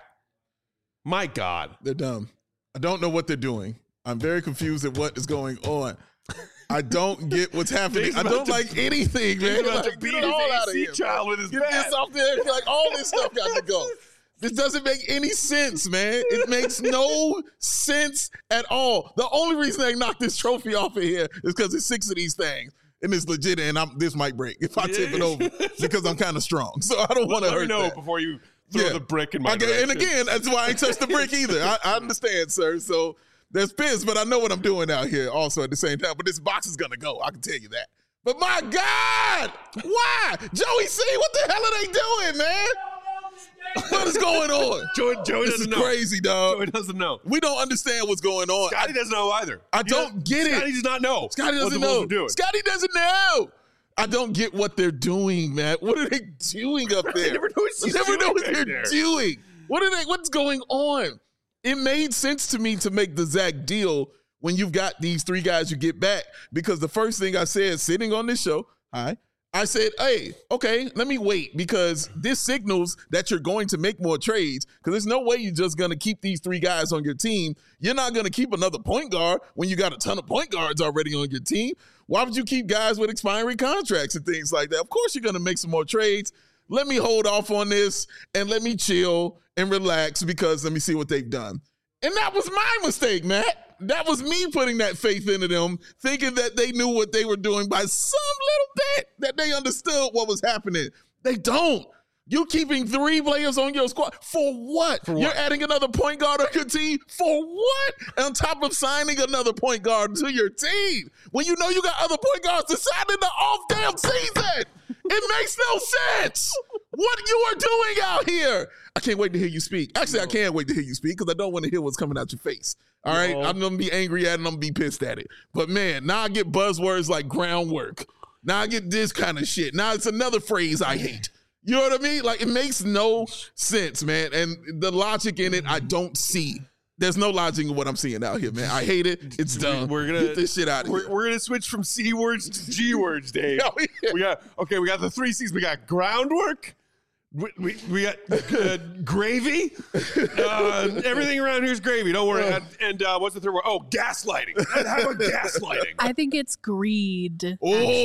My God. They're dumb. I don't know what they're doing. I'm very confused at what is going on. I don't get what's happening. I don't like anything, man. He's about to beat his AC child with his bat. Get this off there. Like, all this stuff got to go. This doesn't make any sense, man. It makes no sense at all. The only reason they knocked this trophy off of here is because it's 6 of these things. And it's legit, and this might break if I tip it over because I'm kind of strong. So I don't want to hurt that. Before you throw the brick in my direction. And again, that's why I ain't touched the brick either. I understand, sir. So there's piss, but I know what I'm doing out here also at the same time. But this box is going to go. I can tell you that. But my God, why? Joey C, what the hell are they doing, man? What is going on? Joey this doesn't know. This is crazy, dog. Joey doesn't know. We don't understand what's going on. Scotty doesn't know either. I don't get it. Scotty does not know. Scotty doesn't know. Scotty doesn't know. I don't get what they're doing, man. What are they doing up there? I never know what they're doing. What's going on? It made sense to me to make the Zach deal when you've got these 3 guys you get back, because the first thing I said sitting on this show, I said, hey, okay, let me wait, because this signals that you're going to make more trades, because there's no way you're just going to keep these 3 guys on your team. You're not going to keep another point guard when you got a ton of point guards already on your team. Why would you keep guys with expiring contracts and things like that? Of course you're going to make some more trades. Let me hold off on this and let me chill and relax, because let me see what they've done. And that was my mistake, Matt. That was me putting that faith into them, thinking that they knew what they were doing by some little bit, that they understood what was happening. They don't. You're keeping 3 players on your squad. For what? You're adding another point guard on your team? For what? On top of signing another point guard to your team, when you know you got other point guards to sign in the off-damn season. It makes no sense. What you are doing out here. I can't wait to hear you speak. Actually, I can't wait to hear you speak, because I don't want to hear what's coming out your face. All right? I'm going to be angry at it and I'm going to be pissed at it. But, man, now I get buzzwords like groundwork. Now I get this kind of shit. Now it's another phrase I hate. You know what I mean? Like, it makes no sense, man. And the logic in it, I don't see. There's no logic in what I'm seeing out here, man. I hate it. It's dumb. We're gonna get this shit out of here. We're gonna switch from C words to G words, Dave. We got the 3 C's. We got groundwork, We got gravy. Everything around here is gravy. Don't worry. And what's the third word? Oh, gaslighting. How about gaslighting? I think it's greed.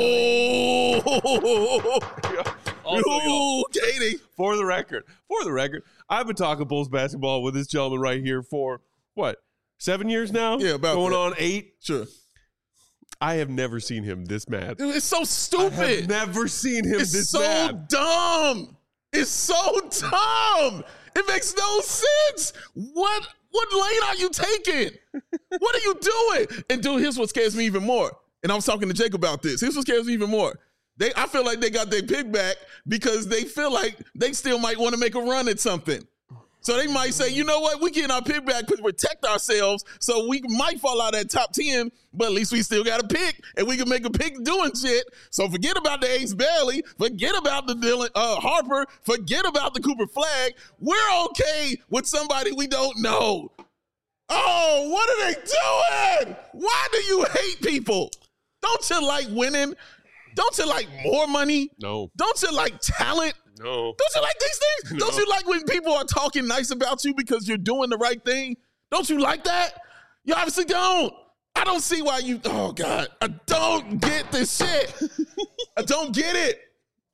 Oh, Katie. For the record, I've been talking Bulls basketball with this gentleman right here for, 7 years now? Yeah, about going that. on 8. Sure. I have never seen him this mad. Dude, it's so stupid. I have never seen him this mad. It's so dumb. It's so dumb. It makes no sense. What lane are you taking? What are you doing? And dude, here's what scares me even more. And I was talking to Jake about this. Here's what scares me even more. I feel like they got their pick back because they feel like they still might want to make a run at something. So they might say, you know what, we getting our pick back to protect ourselves, so we might fall out at top 10, but at least we still got a pick, and we can make a pick doing shit. So forget about the Ace Bailey, forget about the Dylan Harper, forget about the Cooper Flag. We're okay with somebody we don't know. Oh, what are they doing? Why do you hate people? Don't you like winning? Don't you like more money? No. Don't you like talent? No. Don't you like these things? No. Don't you like when people are talking nice about you because you're doing the right thing? Don't you like that? You obviously don't. I don't see why you, oh God, I don't get this shit. I don't get it.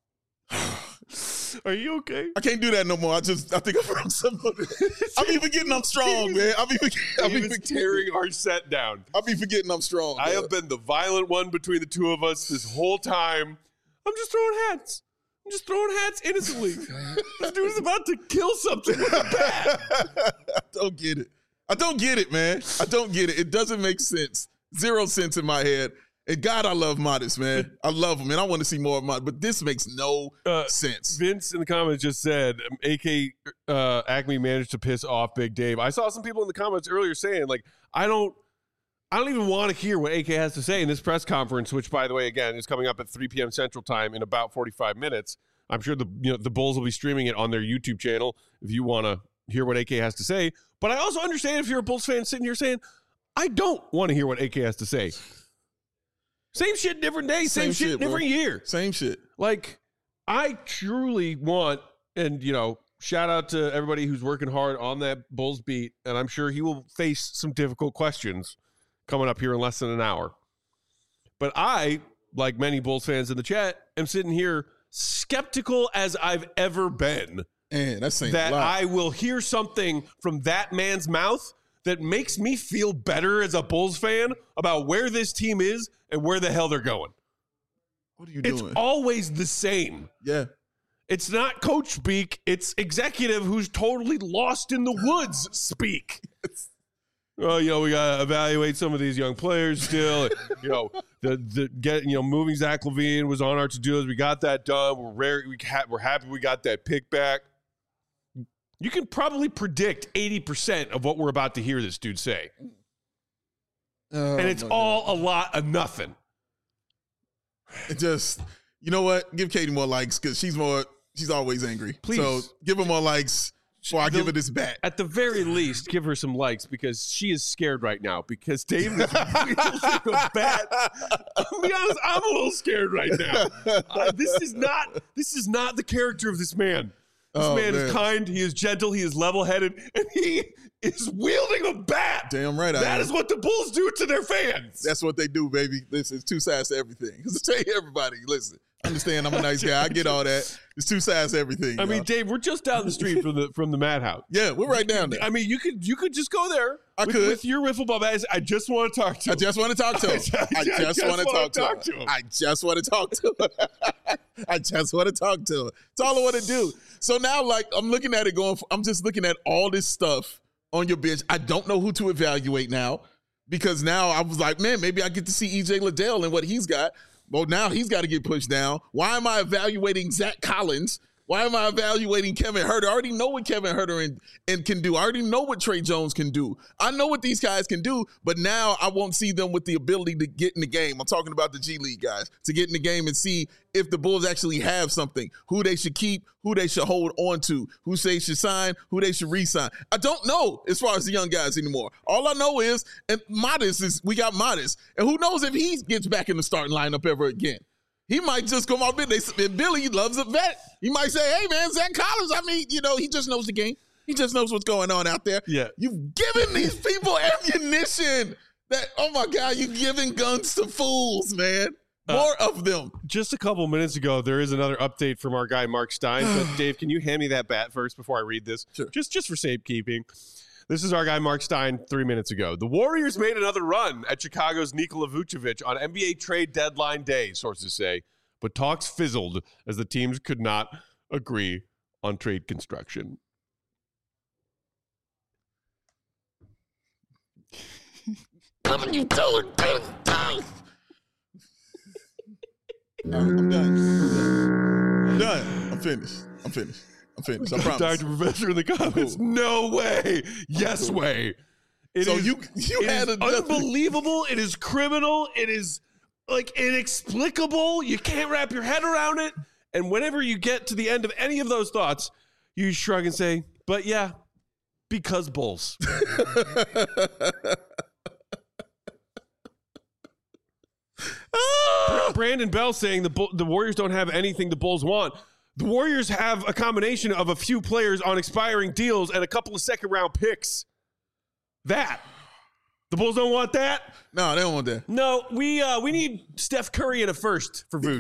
Are you okay? I can't do that no more. I think I broke somebody. I be forgetting I'm strong, man. I be tearing our set down. I be forgetting I'm strong. I have been the violent one between the two of us this whole time. I'm just throwing hats. Innocently. This dude's about to kill something with a bat. I don't get it. I don't get it, man. I don't get it. It doesn't make sense. 0 sense in my head. And God, I love Modest, man. I love him, and I want to see more of Modest. But this makes no sense. Vince in the comments just said, AK Acme managed to piss off Big Dave. I saw some people in the comments earlier saying, like, I don't even want to hear what AK has to say in this press conference, which, by the way, again, is coming up at 3 p.m. Central Time in about 45 minutes. I'm sure the Bulls will be streaming it on their YouTube channel if you want to hear what AK has to say. But I also understand if you're a Bulls fan sitting here saying, I don't want to hear what AK has to say. Same shit, different day. Same shit, different year. Same shit. Like, I truly want, and, shout out to everybody who's working hard on that Bulls beat, and I'm sure he will face some difficult questions coming up here in less than an hour. But I, like many Bulls fans in the chat, am sitting here skeptical as I've ever been. Man, that's saying that a lot. I will hear something from that man's mouth that makes me feel better as a Bulls fan about where this team is and where the hell they're going. What are you doing? It's always the same. Yeah. It's not coach speak. It's executive who's totally lost in the woods speak. Well, we got to evaluate some of these young players still. Moving Zach LaVine was on our to-do list. We got that done. We're happy we got that pick back. You can probably predict 80% of what we're about to hear this dude say. And it's all a lot of nothing. It just, you know what? Give Katie more likes because she's always angry. Please. So give her more likes before I give her this bat. At the very least, give her some likes because she is scared right now because Dave is wielding a bat. I'll be honest, I'm a little scared right now. This is not the character of this man. This man is kind, he is gentle, he is level-headed, and he is wielding a bat. Damn right I am. That is what the Bulls do to their fans. That's what they do, baby. Listen, it's two sides to everything. Because I tell you, everybody, listen, understand I'm a nice guy. I get all that. It's two sides to everything. I mean, Dave, we're just down the street from the Madhouse. Yeah, we're right down there. I mean, you could just go there. With your wiffle ball bat. I just want to talk to him. I just want to talk to him. I just want to talk to him. I just want to talk to him. I just want to talk to him. It's all I want to do. So now, like, I'm looking at it I'm just looking at all this stuff on your bench. I don't know who to evaluate now because now I was like, man, maybe I get to see EJ Liddell and what he's got. Well, now he's got to get pushed down. Why am I evaluating Zach Collins? Why am I evaluating Kevin Huerter? I already know what Kevin Huerter and can do. I already know what Trey Jones can do. I know what these guys can do, but now I won't see them with the ability to get in the game. I'm talking about the G League guys, to get in the game and see if the Bulls actually have something, who they should keep, who they should hold on to, who they should sign, who they should re-sign. I don't know as far as the young guys anymore. All I know is, and we got Modest, and who knows if he gets back in the starting lineup ever again. He might just come off and Billy loves a vet. He might say, hey, man, Zach Collins, I mean, he just knows the game. He just knows what's going on out there. Yeah. You've given these people ammunition that, oh, my God, you're giving guns to fools, man. More of them. Just a couple minutes ago, there is another update from our guy, Mark Stein. But Dave, can you hand me that bat first before I read this? Sure. Just for safekeeping. This is our guy, Mark Stein, 3 minutes ago. The Warriors made another run at Chicago's Nikola Vucevic on NBA trade deadline day, sources say. But talks fizzled as the teams could not agree on trade construction. I'm done. I'm finished. I promise. Dr. Professor in the comments. Cool. No way. Yes way. It is unbelievable. It is criminal. It is like inexplicable. You can't wrap your head around it. And whenever you get to the end of any of those thoughts, you shrug and say, but yeah, because Bulls. Brandon Bell saying the Warriors don't have anything the Bulls want. The Warriors have a combination of a few players on expiring deals and a couple of second-round picks. The Bulls don't want that? No, they don't want that. No, we need Steph Curry in a first for Vooch.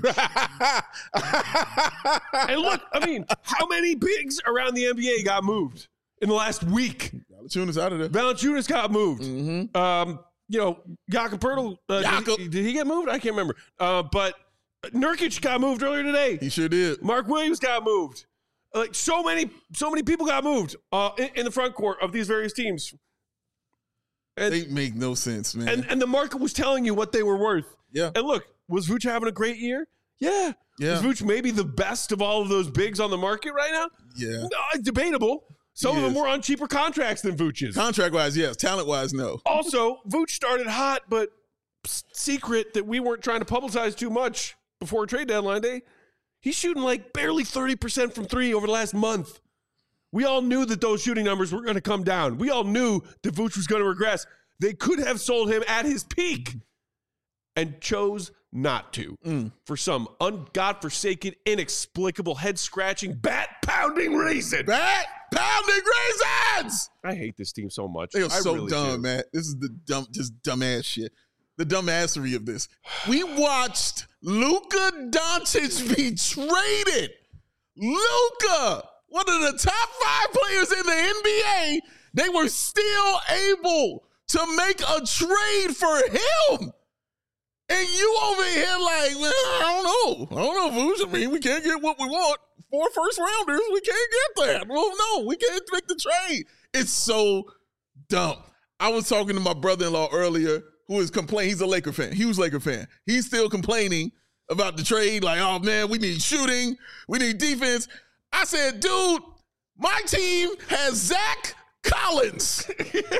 And look, I mean, how many bigs around the NBA got moved in the last week? Valanciunas out of there. Valanciunas got moved. Mm-hmm. Jakob Poeltl, did he get moved? I can't remember. But Nurkic got moved earlier today. He sure did. Mark Williams got moved. Like so many people got moved in the front court of these various teams. And, they make no sense, man. And the market was telling you what they were worth. Yeah. And look, was Vooch having a great year? Yeah. Was Vooch maybe the best of all of those bigs on the market right now? Yeah. No, debatable. Some of them were on cheaper contracts than Vooch's. Contract-wise, yes. Talent-wise, no. Also, Vooch started hot, but secret that we weren't trying to publicize too much before trade deadline day. He's shooting like barely 30% from three over the last month. We all knew that those shooting numbers were going to come down. We all knew that Vooch was going to regress. They could have sold him at his peak and chose not to for some godforsaken, inexplicable, head-scratching, bat-pounding reason. Bat-pounding reasons! I hate this team so much. They are so really dumb, do. man. This is the dumbass shit. The dumbassery of this. We watched Luka Doncic be traded. Luka, one of the top 5 players in the NBA, they were still able to make a trade for him. And you over here like, well, I don't know, Vooch. I mean, we can't get what we want. 4 first rounders, we can't get that. Well, no, we can't make the trade. It's so dumb. I was talking to my brother-in-law earlier who is complaining. He's a Laker fan. Huge Laker fan. He's still complaining about the trade. Like, oh, man, we need shooting. We need defense. I said, dude, my team has Zach Collins.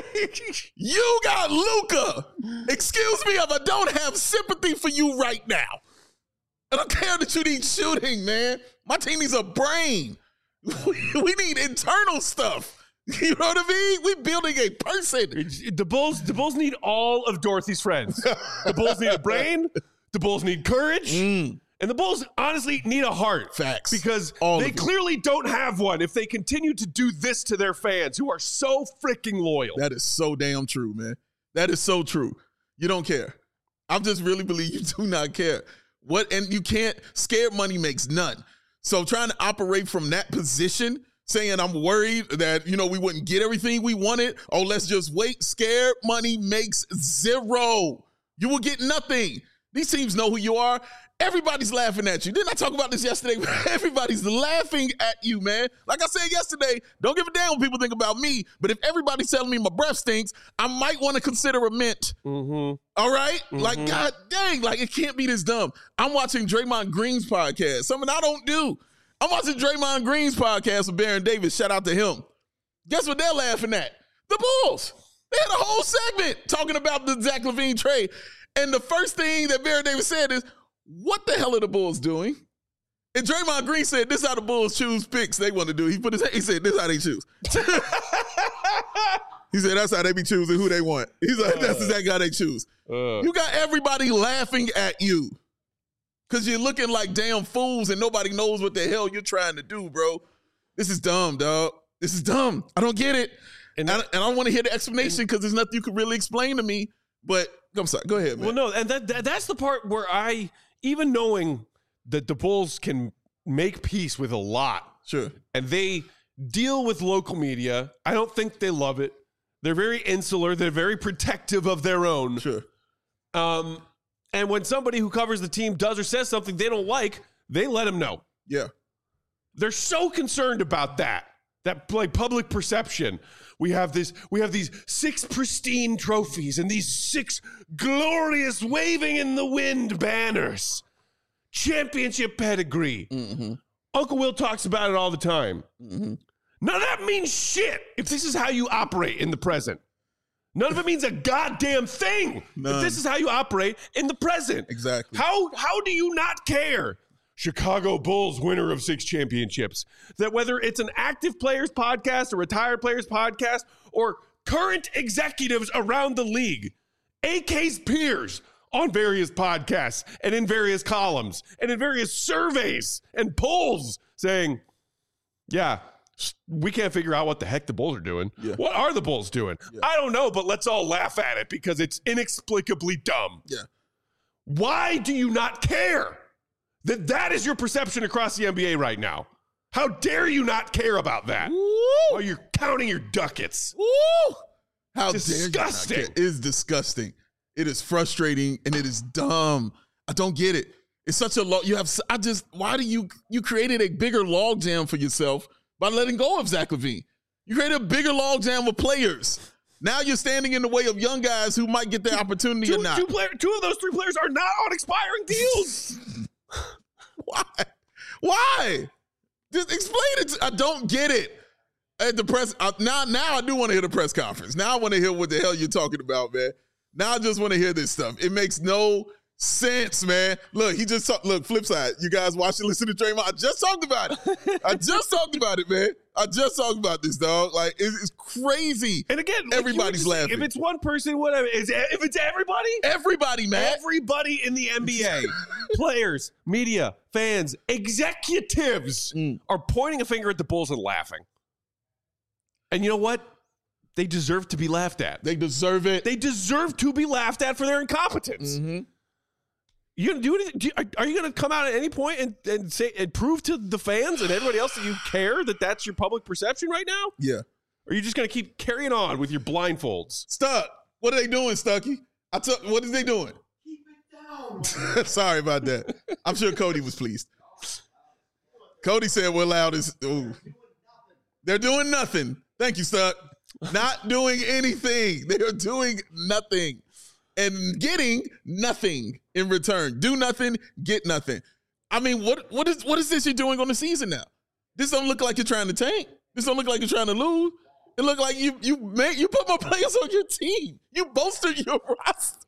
You got Luka. Excuse me if I don't have sympathy for you right now. I don't care that you need shooting, man. My team needs a brain. We need internal stuff. You know what I mean? We're building a person. The Bulls need all of Dorothy's friends. The Bulls need a brain. The Bulls need courage. And the Bulls honestly need a heart. Facts. Because all they clearly don't have one if they continue to do this to their fans who are so freaking loyal. That is so damn true, man. That is so true. You don't care. I just really believe you do not care. And you can't, scared money makes none. So trying to operate from that position, saying I'm worried that, we wouldn't get everything we wanted. Oh, let's just wait. Scared money makes zero. You will get nothing. These teams know who you are. Everybody's laughing at you. Didn't I talk about this yesterday? Everybody's laughing at you, man. Like I said yesterday, don't give a damn what people think about me. But if everybody's telling me my breath stinks, I might want to consider a mint. Mm-hmm. All right? Mm-hmm. Like, God dang, like it can't be this dumb. I'm watching Draymond Green's podcast, something I don't do. I'm watching Draymond Green's podcast with Baron Davis. Shout out to him. Guess what they're laughing at? The Bulls. They had a whole segment talking about the Zach LaVine trade. And the first thing that Baron Davis said is, what the hell are the Bulls doing? And Draymond Green said, this is how the Bulls choose picks they want to do. He said, this is how they choose. He said, that's how they be choosing who they want. He's like, that's exactly how they choose. You got everybody laughing at you. because you're looking like damn fools and nobody knows what the hell you're trying to do, bro. This is dumb, dog. This is dumb. I don't get it. And I don't want to hear the explanation because there's nothing you can really explain to me. But I'm sorry. Go ahead, man. Well, no, and that's the part where even knowing that the Bulls can make peace with a lot. Sure. And they deal with local media. I don't think they love it. They're very insular. They're very protective of their own. Sure. And when somebody who covers the team does or says something they don't like, they let them know. Yeah. They're so concerned about that like public perception. We have these 6 pristine trophies and these 6 glorious waving in the wind banners. Championship pedigree. Mm-hmm. Uncle Will talks about it all the time. Mm-hmm. None of that means shit if this is how you operate in the present. None of it means a goddamn thing if this is how you operate in the present. Exactly. How do you not care? Chicago Bulls winner of 6 championships. That whether it's an active players podcast, a retired players podcast, or current executives around the league, AK's peers on various podcasts and in various columns and in various surveys and polls saying, yeah, we can't figure out what the heck the Bulls are doing. Yeah. What are the Bulls doing? Yeah. I don't know, but let's all laugh at it because it's inexplicably dumb. Yeah. Why do you not care that is your perception across the NBA right now? How dare you not care about that? While you're counting your ducats. Woo! How disgusting. dare you not care? It is disgusting. It is frustrating and it is dumb. I don't get it. It's such a why do you created a bigger logjam for yourself by letting go of Zach LaVine? You created a bigger logjam of players. Now you're standing in the way of young guys who might get the opportunity or not. 2 of those 3 players are not on expiring deals. Why? Just explain it. I don't get it. At the press, now I do want to hear the press conference. Now I want to hear what the hell you're talking about, man. Now I just want to hear this stuff. It makes no sense, man. Look, flip side. You guys watch and listen to Draymond. I just talked about it. I just talked about it, man. I just talked about this, dog. Like, it's crazy. And again, everybody's laughing. If it's one person, whatever. If it's everybody? Everybody, man. Everybody in the NBA. Players, media, fans, executives are pointing a finger at the Bulls and laughing. And you know what? They deserve to be laughed at. They deserve it. They deserve to be laughed at for their incompetence. Mm-hmm. You gonna do anything? Are you gonna come out at any point and say and prove to the fans and everybody else that you care that that's your public perception right now? Yeah. Or are you just gonna keep carrying on with your blindfolds? Stuck. What are they doing, Stucky? What is they doing? Keep it down. Sorry about that. I'm sure Cody was pleased. Cody said we're loud as. Ooh. They're doing nothing. Thank you, Stuck. Not doing anything. They are doing nothing. And getting nothing in return. Do nothing, get nothing. I mean, what is this you're doing on the season now? This don't look like you're trying to tank. This don't look like you're trying to lose. It look like you put more players on your team. You bolstered your roster.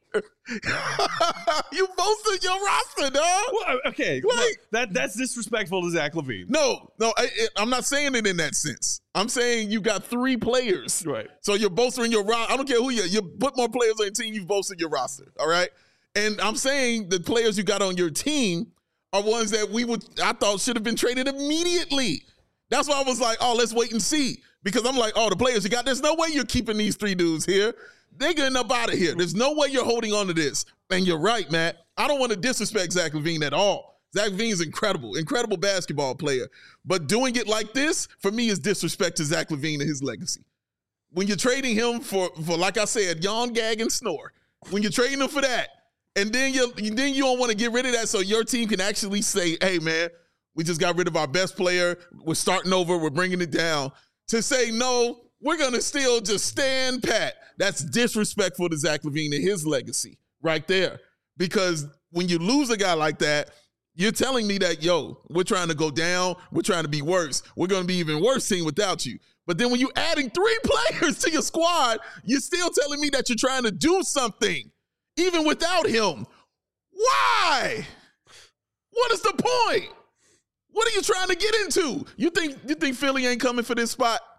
You bolstered your roster, dog. Well, okay, like, that's disrespectful to Zach LaVine. No, I'm not saying it in that sense. I'm saying you got 3 players, right? So you're bolstering your roster. I don't care who you put more players on your team. You've bolstered your roster, all right? And I'm saying the players you got on your team are ones that I thought should have been traded immediately. That's why I was like, oh, let's wait and see. Because I'm like, oh, the players you got, there's no way you're keeping these 3 dudes here. They're getting up out of here. There's no way you're holding on to this. And you're right, Matt. I don't want to disrespect Zach LaVine at all. Zach LaVine is incredible basketball player. But doing it like this, for me, is disrespect to Zach LaVine and his legacy. When you're trading him for like I said, yawn, gag, and snore. When you're trading him for that, and then you don't want to get rid of that so your team can actually say, hey, man, we just got rid of our best player. We're starting over. We're bringing it down. To say, no, we're going to still just stand pat. That's disrespectful to Zach LaVine and his legacy right there. Because when you lose a guy like that, you're telling me that, yo, we're trying to go down. We're trying to be worse. We're going to be even worse team without you. But then when you're adding 3 players to your squad, you're still telling me that you're trying to do something, even without him. Why? What is the point? What are you trying to get into? You think Philly ain't coming for this spot?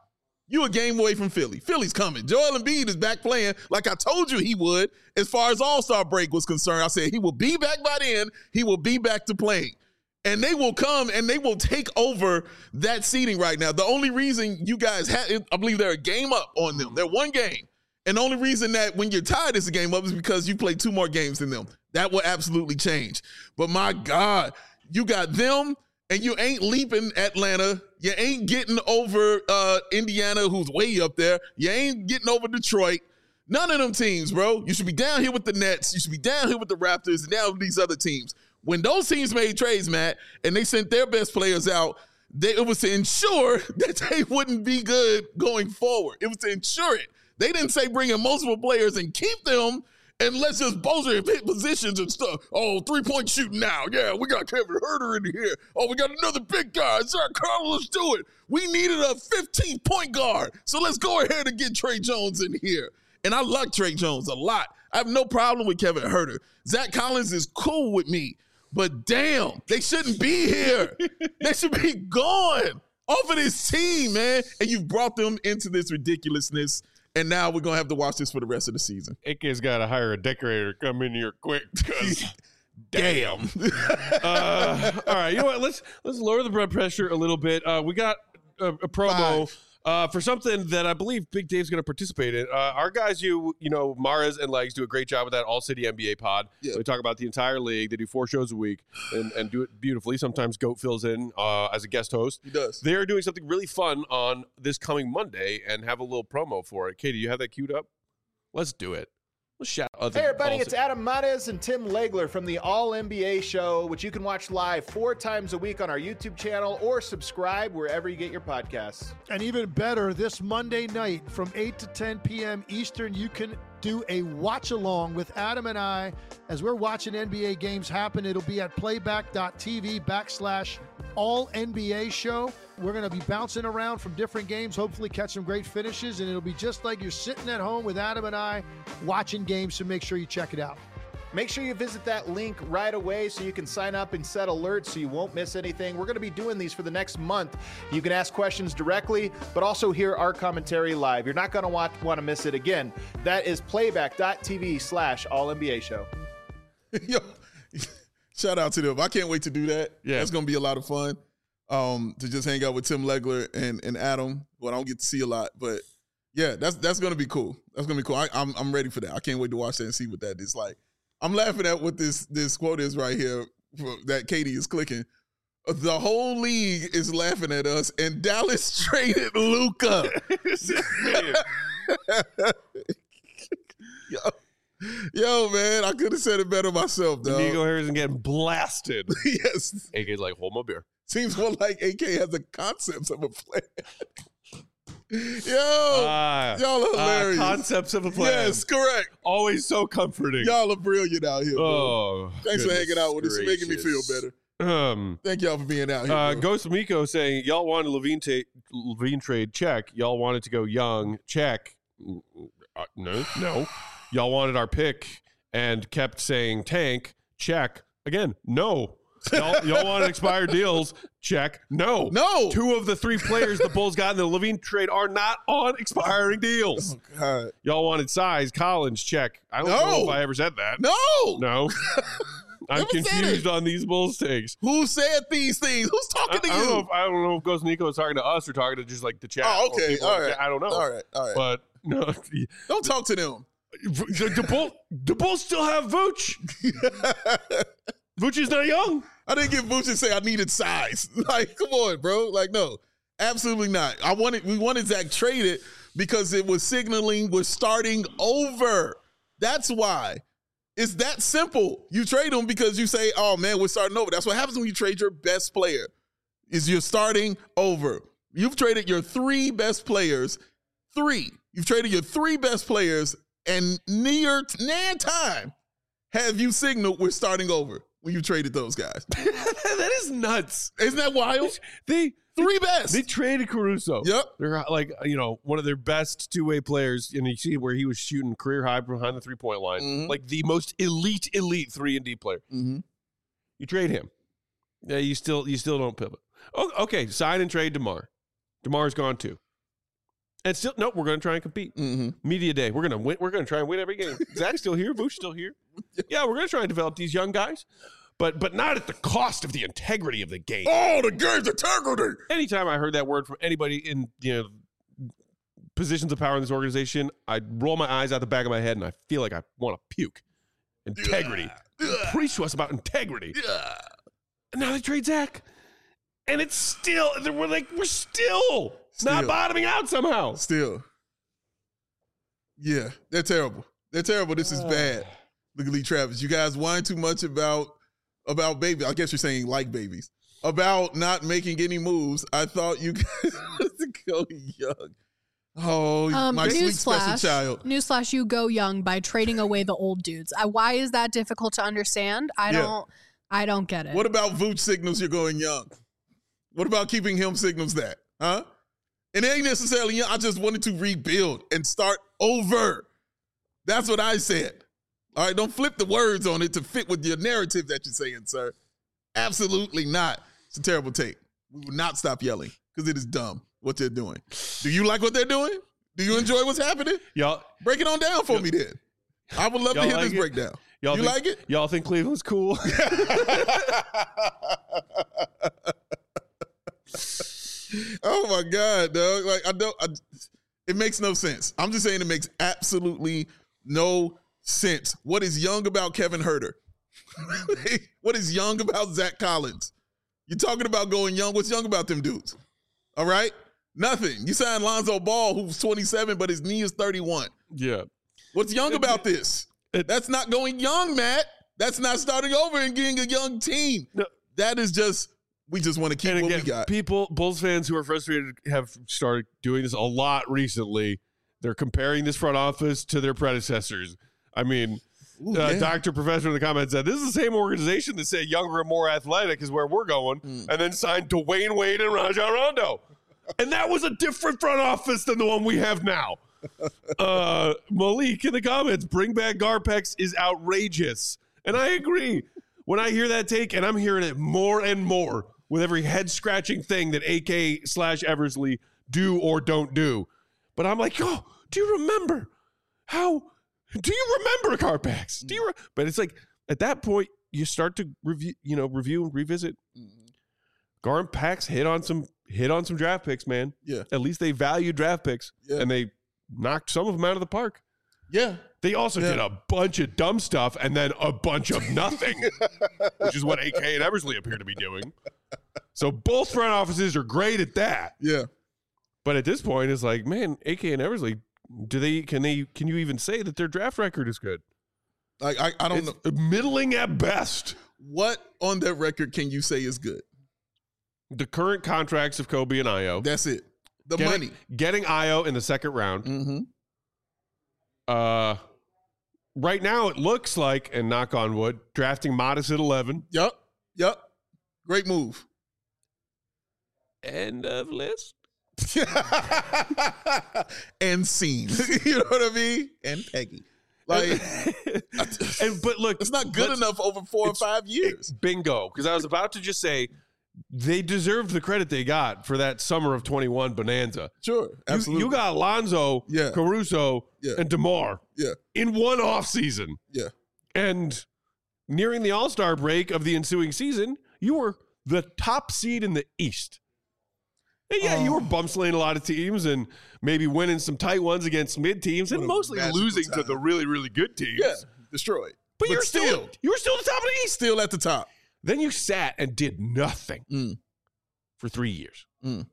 You a game away from Philly. Philly's coming. Joel Embiid is back playing like I told you he would as far as All-Star break was concerned. I said he will be back by then. He will be back to playing. And they will come and they will take over that seeding right now. The only reason you guys had, I believe they're a game up on them. They're one game. And the only reason that when you're tied it's a game up is because you play 2 more games than them. That will absolutely change. But my God, you got them and you ain't leaping Atlanta. You ain't getting over Indiana, who's way up there. You ain't getting over Detroit. None of them teams, bro. You should be down here with the Nets. You should be down here with the Raptors and down with these other teams. When those teams made trades, Matt, and they sent their best players out, it was to ensure that they wouldn't be good going forward. It was to ensure it. They didn't say bring in multiple players and keep them and let's just buzzer and hit positions and stuff. Oh, 3-point shooting now. Yeah, we got Kevin Huerter in here. Oh, we got another big guy. Zach Carlos, let's do it. We needed a 15-point guard. So let's go ahead and get Trey Jones in here. And I like Trey Jones a lot. I have no problem with Kevin Huerter. Zach Collins is cool with me. But damn, they shouldn't be here. They should be gone off of this team, man. And you've brought them into this ridiculousness. And now we're going to have to watch this for the rest of the season. AK's got to hire a decorator to come in here quick because damn. All right, you know what? Let's lower the blood pressure a little bit. We got a promo for something that I believe Big Dave's going to participate in. Our guys, you know, Mares and Legs do a great job with that All City NBA pod. Yeah. They talk about the entire league. They do 4 shows a week and do it beautifully. Sometimes Goat fills in as a guest host. He does. They're doing something really fun on this coming Monday and have a little promo for it. Katie, you have that queued up? Let's do it. Let's shout out. Hey everybody, it's Adam Mares and Tim Legler from the All NBA Show, which you can watch live 4 times a week on our YouTube channel or subscribe wherever you get your podcasts. And even better, this Monday night from 8 to 10 p.m. Eastern, you can do a watch-along with Adam and I as we're watching NBA games happen. It'll be at playback.tv/All-NBA Show. We're going to be bouncing around from different games, hopefully catch some great finishes, and it'll be just like you're sitting at home with Adam and I watching games, so make sure you check it out. Make sure you visit that link right away so you can sign up and set alerts so you won't miss anything. We're going to be doing these for the next month. You can ask questions directly, but also hear our commentary live. You're not going to want to miss it again. That is playback.tv/All-NBA Show. Yo, shout out to them. I can't wait to do that. Yeah. That's going to be a lot of fun to just hang out with Tim Legler and Adam, who I don't get to see a lot. But, yeah, that's going to be cool. That's going to be cool. I'm ready for that. I can't wait to watch that and see what that is like. I'm laughing at what this quote is right here that Katie is clicking. The whole league is laughing at us, and Dallas traded Luka. Yo, man, I could have said it better myself, dog. Nico Harrison getting blasted. Yes. AK's like, hold my beer. Seems more like AK has the concepts of a plan. Yo, y'all are hilarious. Concepts of a plan. Yes, correct. Always so comforting. Y'all are brilliant out here, bro. Oh, thanks for hanging out with us. It's making me feel better. Thank y'all for being out here. Ghost Miko saying, y'all wanted Levine trade, check. Y'all wanted to go young, check. No. Y'all wanted our pick and kept saying tank, check. Again, no. Y'all wanted expired deals, check. No. 2 of the 3 players the Bulls got in the Levine trade are not on expiring deals. Oh, God. Y'all wanted size, Collins, check. I don't know if I ever said that. No. I'm confused on these Bulls takes. Who said these things? Who's talking to you? I don't know if Ghost Nico is talking to us or talking to just like the chat. Oh, okay. All right. I don't know. All right. But no. Don't talk to them. The Bulls still have Vooch. Vooch is not young. I didn't get Vooch and say I needed size. Like, come on, bro. Like, no, absolutely not. We wanted Zach traded because it was signaling we're starting over. That's why. It's that simple. You trade him because you say, oh, man, we're starting over. That's what happens when you trade your best player, is you're starting over. You've traded your 3 best players. 3. You've traded your 3 best players, and near time have you signaled we're starting over when you traded those guys. That is nuts. Isn't that wild? They 3 best. They traded Caruso. Yep. They're like, one of their best 2-way players. And you see where he was shooting career high behind the 3-point line. Mm-hmm. Like the most elite 3-and-D player. Mm-hmm. You trade him. Yeah, you still don't pivot. Oh, okay, sign and trade DeMar. DeMar's gone too. And still, nope, we're going to try and compete. Media day, we're going to win. We're going to try and win every game. Zach's still here. Vooch's still here. Yeah, we're going to try and develop these young guys, but not at the cost of the integrity of the game. Oh, the game's integrity. Anytime I heard that word from anybody in positions of power in this organization, I'd roll my eyes out the back of my head and I feel like I want to puke. Integrity. Preach to us about integrity. And now they trade Zach. And it's still, we're still not bottoming out somehow. Still. Yeah, they're terrible. They're terrible. This is bad. Look at Lee Travis. You guys whine too much about baby. I guess you're saying like babies. About not making any moves. I thought you guys would go young. Oh, my sweet special child. Newsflash, you go young by trading away the old dudes. Why is that difficult to understand? I don't get it. What about Vooch signals you're going young? What about keeping him signals that? Huh? And it ain't necessarily young. I just wanted to rebuild and start over. That's what I said. All right, don't flip the words on it to fit with your narrative that you're saying, sir. Absolutely not. It's a terrible take. We will not stop yelling because it is dumb what they're doing. Do you like what they're doing? Do you enjoy what's happening? Y'all break it on down for me then. I would love to hear this breakdown. You like it? Y'all think Cleveland's cool? Oh my God, dog. Like it makes no sense. I'm just saying it makes absolutely no sense. What is young about Kevin Huerter? What is young about Zach Collins? You're talking about going young. What's young about them dudes? All right? Nothing. You signed Lonzo Ball, who's 27, but his knee is 31. Yeah. What's young about this? That's not going young, Matt. That's not starting over and getting a young team. No. That is just, we just want to keep what we got. Bulls fans who are frustrated have started doing this a lot recently. They're comparing this front office to their predecessors. I mean, Dr. Professor in the comments said, this is the same organization that said younger and more athletic is where we're going, and then signed Dwayne Wade and Rajon Rondo. And that was a different front office than the one we have now. Malik in the comments, bring back Garpex is outrageous. And I agree. When I hear that take, and I'm hearing it more and more with every head-scratching thing that AK/Eversley do or don't do. But I'm like, oh, do you remember Garpex? But it's like, at that point, you start to review and revisit. Garpex hit on some draft picks, man. Yeah. At least they valued draft picks, and they knocked some of them out of the park. Yeah. They also did a bunch of dumb stuff and then a bunch of nothing, which is what AK and Eversley appear to be doing. So both front offices are great at that. Yeah. But at this point, it's like, man, AK and Eversley, can you even say that their draft record is good? Like I don't know. Middling at best. What on that record can you say is good? The current contracts of Kobe and Ayo. That's it. Money. Getting Ayo in the second round. Mm-hmm. Right now it looks like, and knock on wood, drafting Modest at 11. Yep. Great move. End of list. And scene. You know what I mean? And Peggy. Like, but look, it's not good enough over 4 or 5 years. Bingo. Because I was about to just say, they deserved the credit they got for that summer of 21 bonanza. Sure, absolutely. You got Lonzo, Caruso, and DeMar in one offseason. Yeah. And nearing the All-Star break of the ensuing season, you were the top seed in the East. And you were bum slaying a lot of teams and maybe winning some tight ones against mid teams and mostly losing to the really, really good teams. Yeah, destroyed. But you were still at the top of the East. Still at the top. Then you sat and did nothing for 3 years.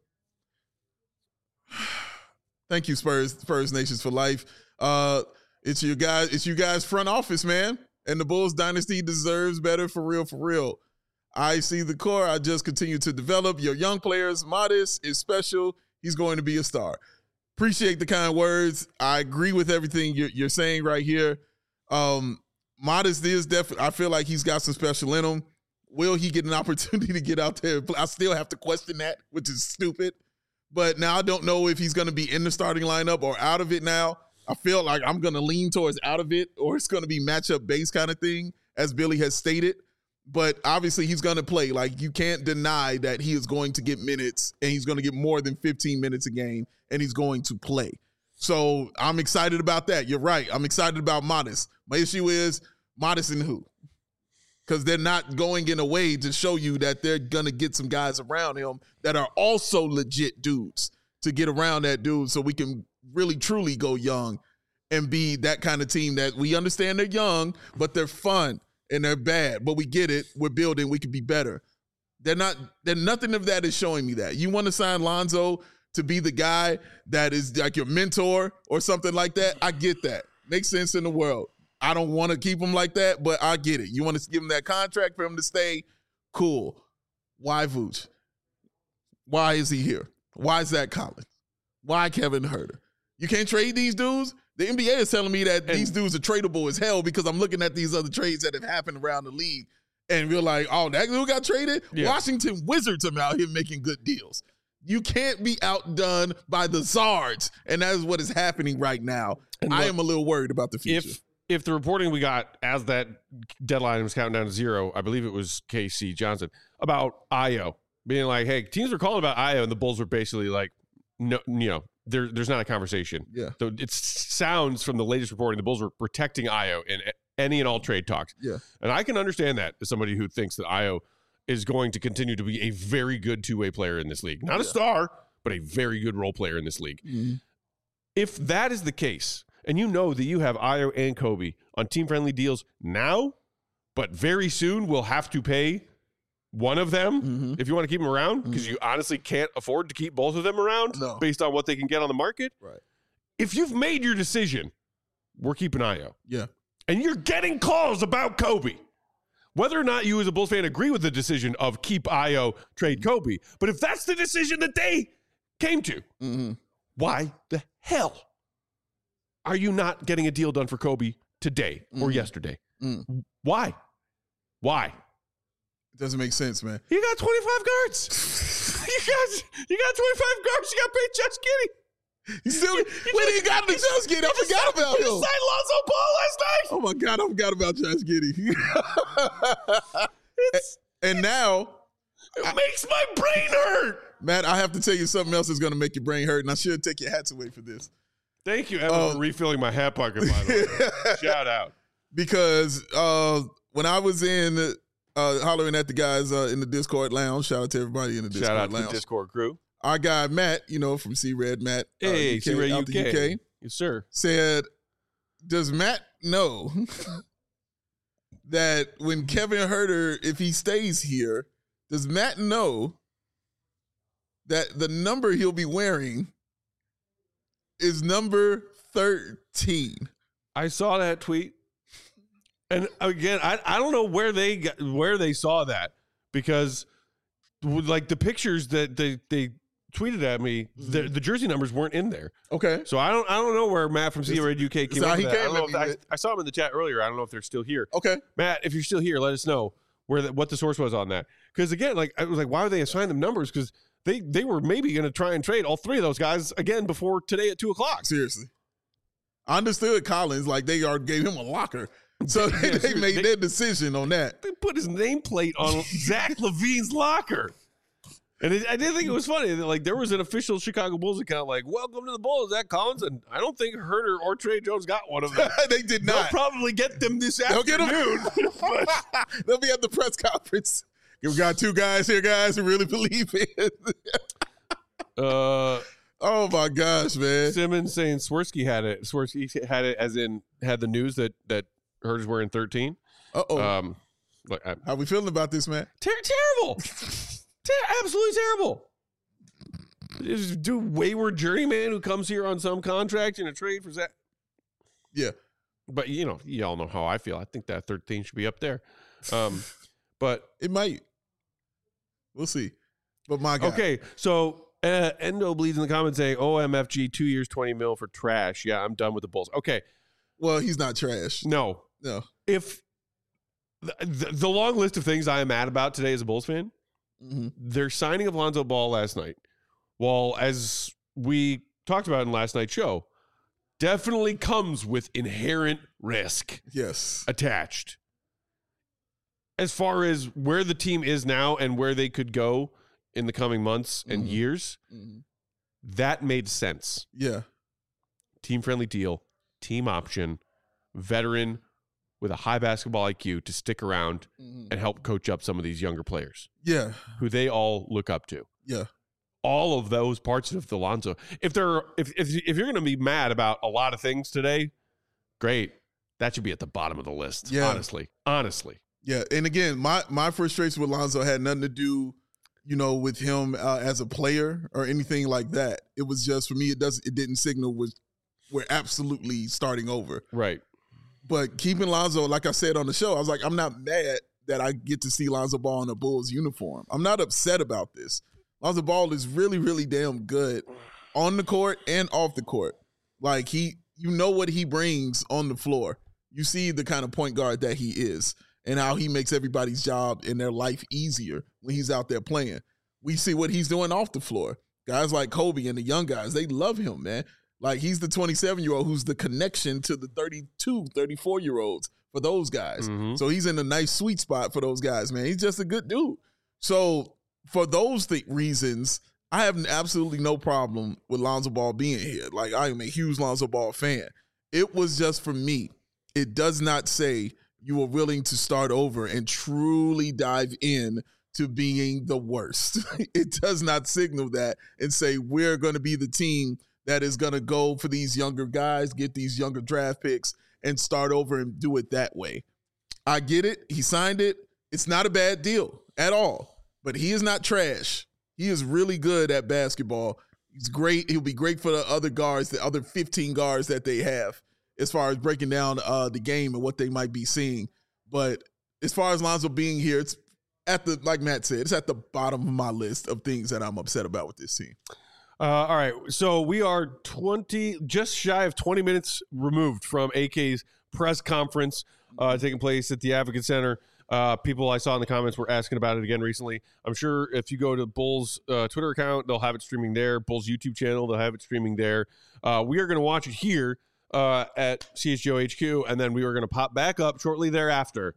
Thank you, Spurs Nations for life. It's you guys front office, man. And the Bulls dynasty deserves better, for real. I see the core. I just continue to develop your young players. Modest is special. He's going to be a star. Appreciate the kind words. I agree with everything you're saying right here. Modest is definitely, I feel like he's got some special in him. Will he get an opportunity to get out there? I still have to question that, which is stupid. But now I don't know if he's going to be in the starting lineup or out of it now. I feel like I'm going to lean towards out of it, or it's going to be matchup based kind of thing, as Billy has stated. But obviously he's going to play. Like, you can't deny that he is going to get minutes, and he's going to get more than 15 minutes a game, and he's going to play. So I'm excited about that. You're right. I'm excited about Modest. My issue is Modest and who? Because they're not going in a way to show you that they're going to get some guys around him that are also legit dudes to get around that dude so we can really, truly go young and be that kind of team that we understand they're young, but they're fun. And they're bad, but we get it. We're building. We could be better. Nothing of that is showing me that. You want to sign Lonzo to be the guy that is like your mentor or something like that? I get that. Makes sense in the world. I don't want to keep him like that, but I get it. You want to give him that contract for him to stay? Cool. Why Vooch? Why is he here? Why Zach Collins? Why Kevin Huerter? You can't trade these dudes? The NBA is telling me that these dudes are tradable as hell because I'm looking at these other trades that have happened around the league, and we're like, oh, that dude got traded? Yeah. Washington Wizards are out here making good deals. You can't be outdone by the Zards, and that is what is happening right now. And look, I am a little worried about the future. If the reporting we got as that deadline was counting down to 0, I believe it was KC Johnson, about Ayo, being like, hey, teams were calling about Ayo, and the Bulls were basically like, no, there's not a conversation. Yeah. So it sounds from the latest reporting, the Bulls were protecting Ayo in any and all trade talks. Yeah. And I can understand that as somebody who thinks that Ayo is going to continue to be a very good two-way player in this league. Not a star, but a very good role player in this league. Mm-hmm. If that is the case, and you know that you have Ayo and Kobe on team-friendly deals now, but very soon we'll have to pay one of them if you want to keep them around, because you honestly can't afford to keep both of them around based on what they can get on the market. Right. If you've made your decision, we're keeping Ayo. Yeah. And you're getting calls about Kobe. Whether or not you as a Bulls fan agree with the decision of keep Ayo, trade Kobe, but if that's the decision that they came to, why the hell are you not getting a deal done for Kobe today or yesterday? Why? Doesn't make sense, man. You got 25 guards. you got 25 guards. You got paid Josh Giddey. You still, when he got the Josh Giddey, I forgot about him. You signed Lonzo Ball last night. Oh my God, I forgot about Josh Giddey. And now, it makes my brain hurt. Matt, I have to tell you something else that's going to make your brain hurt, and I should take your hats away for this. Thank you, Evan, for refilling my hat pocket, by the way. Shout out. Because when I was in hollering at the guys in the Discord lounge, shout out to everybody in the Discord lounge. Shout out to the Discord crew. Our guy, Matt, from C-Red, Matt. Hey, C-Red UK. Yes, sir. Said, does Matt know that when Kevin Huerter, if he stays here, does Matt know that the number he'll be wearing is number 13? I saw that tweet. And again, I don't know where they saw that, because like the pictures that they tweeted at me, the jersey numbers weren't in there. Okay. So I don't know where Matt from C-Red UK came up with that. I saw him in the chat earlier. I don't know if they're still here. Okay. Matt, if you're still here, let us know what the source was on that. Because again, like I was like, why would they assign them numbers? Because they were maybe going to try and trade all three of those guys again before today at 2:00. Seriously. I understood Collins, like they already gave him a locker. So they made their decision on that. They put his nameplate on Zach LaVine's locker. And I did think it was funny that like there was an official Chicago Bulls account like, welcome to the Bulls, Zach Collins. And I don't think Huerter or Trey Jones got one of them. They did not. They'll probably get them this afternoon. They'll be at the press conference. We got two guys here, guys, who really believe it. Oh my gosh, man. Simmons saying Swirsky had it. Swirsky had it as in had the news that Huerter's wearing 13. Uh-oh. How we feeling about this, man? Terrible. Absolutely terrible. Just do wayward journeyman who comes here on some contract in a trade for Zach. Yeah. But, you all know how I feel. I think that 13 should be up there. But it might. We'll see. But my God. Okay, so Endo bleeds in the comments saying, OMFG, 2 years, 20 mil for trash. Yeah, I'm done with the Bulls. Okay. Well, he's not trash. No. If the long list of things I am mad about today as a Bulls fan, their signing of Lonzo Ball last night, well, as we talked about in last night's show, definitely comes with inherent risk. Yes. Attached. as far as where the team is now and where they could go in the coming months and years, that made sense. Yeah. Team-friendly deal, team option, veteran with a high basketball IQ to stick around and help coach up some of these younger players. Yeah. Who they all look up to. Yeah. All of those parts of Lonzo. If you're going to be mad about a lot of things today, great. That should be at the bottom of the list. Yeah. Honestly. Yeah. And again, my frustration with Lonzo had nothing to do, with him as a player or anything like that. It was just, for me, it didn't signal we're absolutely starting over. Right. But keeping Lonzo, like I said on the show, I was like, I'm not mad that I get to see Lonzo Ball in a Bulls uniform. I'm not upset about this. Lonzo Ball is really, really damn good on the court and off the court. Like, what he brings on the floor. You see the kind of point guard that he is and how he makes everybody's job and their life easier when he's out there playing. We see what he's doing off the floor. Guys like Kobe and the young guys, they love him, man. Like, he's the 27-year-old who's the connection to the 32, 34-year-olds for those guys. So he's in a nice sweet spot for those guys, man. He's just a good dude. So for those reasons, I have absolutely no problem with Lonzo Ball being here. Like, I am a huge Lonzo Ball fan. It was just, for me, it does not say you are willing to start over and truly dive in to being the worst. It does not signal that and say we're going to be the team that is going to go for these younger guys, get these younger draft picks, and start over and do it that way. I get it. He signed it. It's not a bad deal at all. But he is not trash. He is really good at basketball. He's great. He'll be great for the other guards, the other 15 guards that they have, as far as breaking down the game and what they might be seeing. But as far as Lonzo being here, it's like Matt said, it's at the bottom of my list of things that I'm upset about with this team. All right, so we are just shy of 20 minutes removed from AK's press conference taking place at the Advocate Center. People I saw in the comments were asking about it again recently. I'm sure if you go to Bulls Twitter account, they'll have it streaming there. Bulls YouTube channel, they'll have it streaming there. We are going to watch it here at CHGO HQ, and then we are going to pop back up shortly thereafter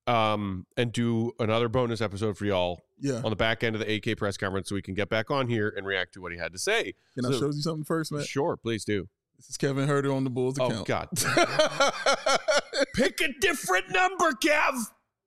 and do another bonus episode for y'all on the back end of the AK press conference so we can get back on here and react to what he had to say. Can I show you something first, Matt? Sure, please do. This is Kevin Herter on the Bulls account. Oh, God. Pick a different number, Kev.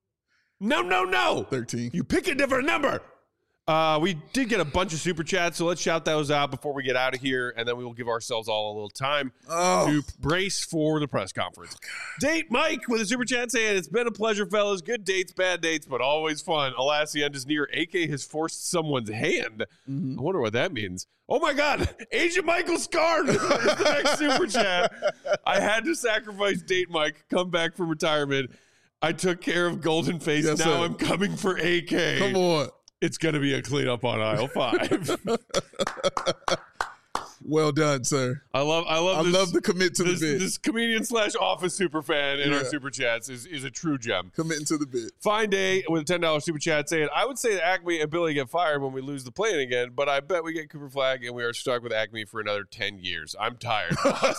No. 13. You pick a different number. We did get a bunch of super chats, so let's shout those out before we get out of here, and then we will give ourselves all a little time to brace for the press conference. Date Mike with a super chat saying, "It's been a pleasure, fellas. Good dates, bad dates, but always fun. Alas, the end is near. AK has forced someone's hand." I wonder what that means. Oh, my God. Agent Michael Scarn is the next super chat. I had to sacrifice Date Mike, come back from retirement. I took care of Golden Face. Yes, now sir. I'm coming for AK. Come on. It's going to be a cleanup on aisle 5. Well done, sir. I love the commit to the bit. This comedian / office super fan in our super chats is a true gem. Committing to the bit. Fine Day with a $10 super chat saying, "I would say that Acme and Billy get fired when we lose the plane again, but I bet we get Cooper Flag and we are stuck with Acme for another 10 years. I'm tired."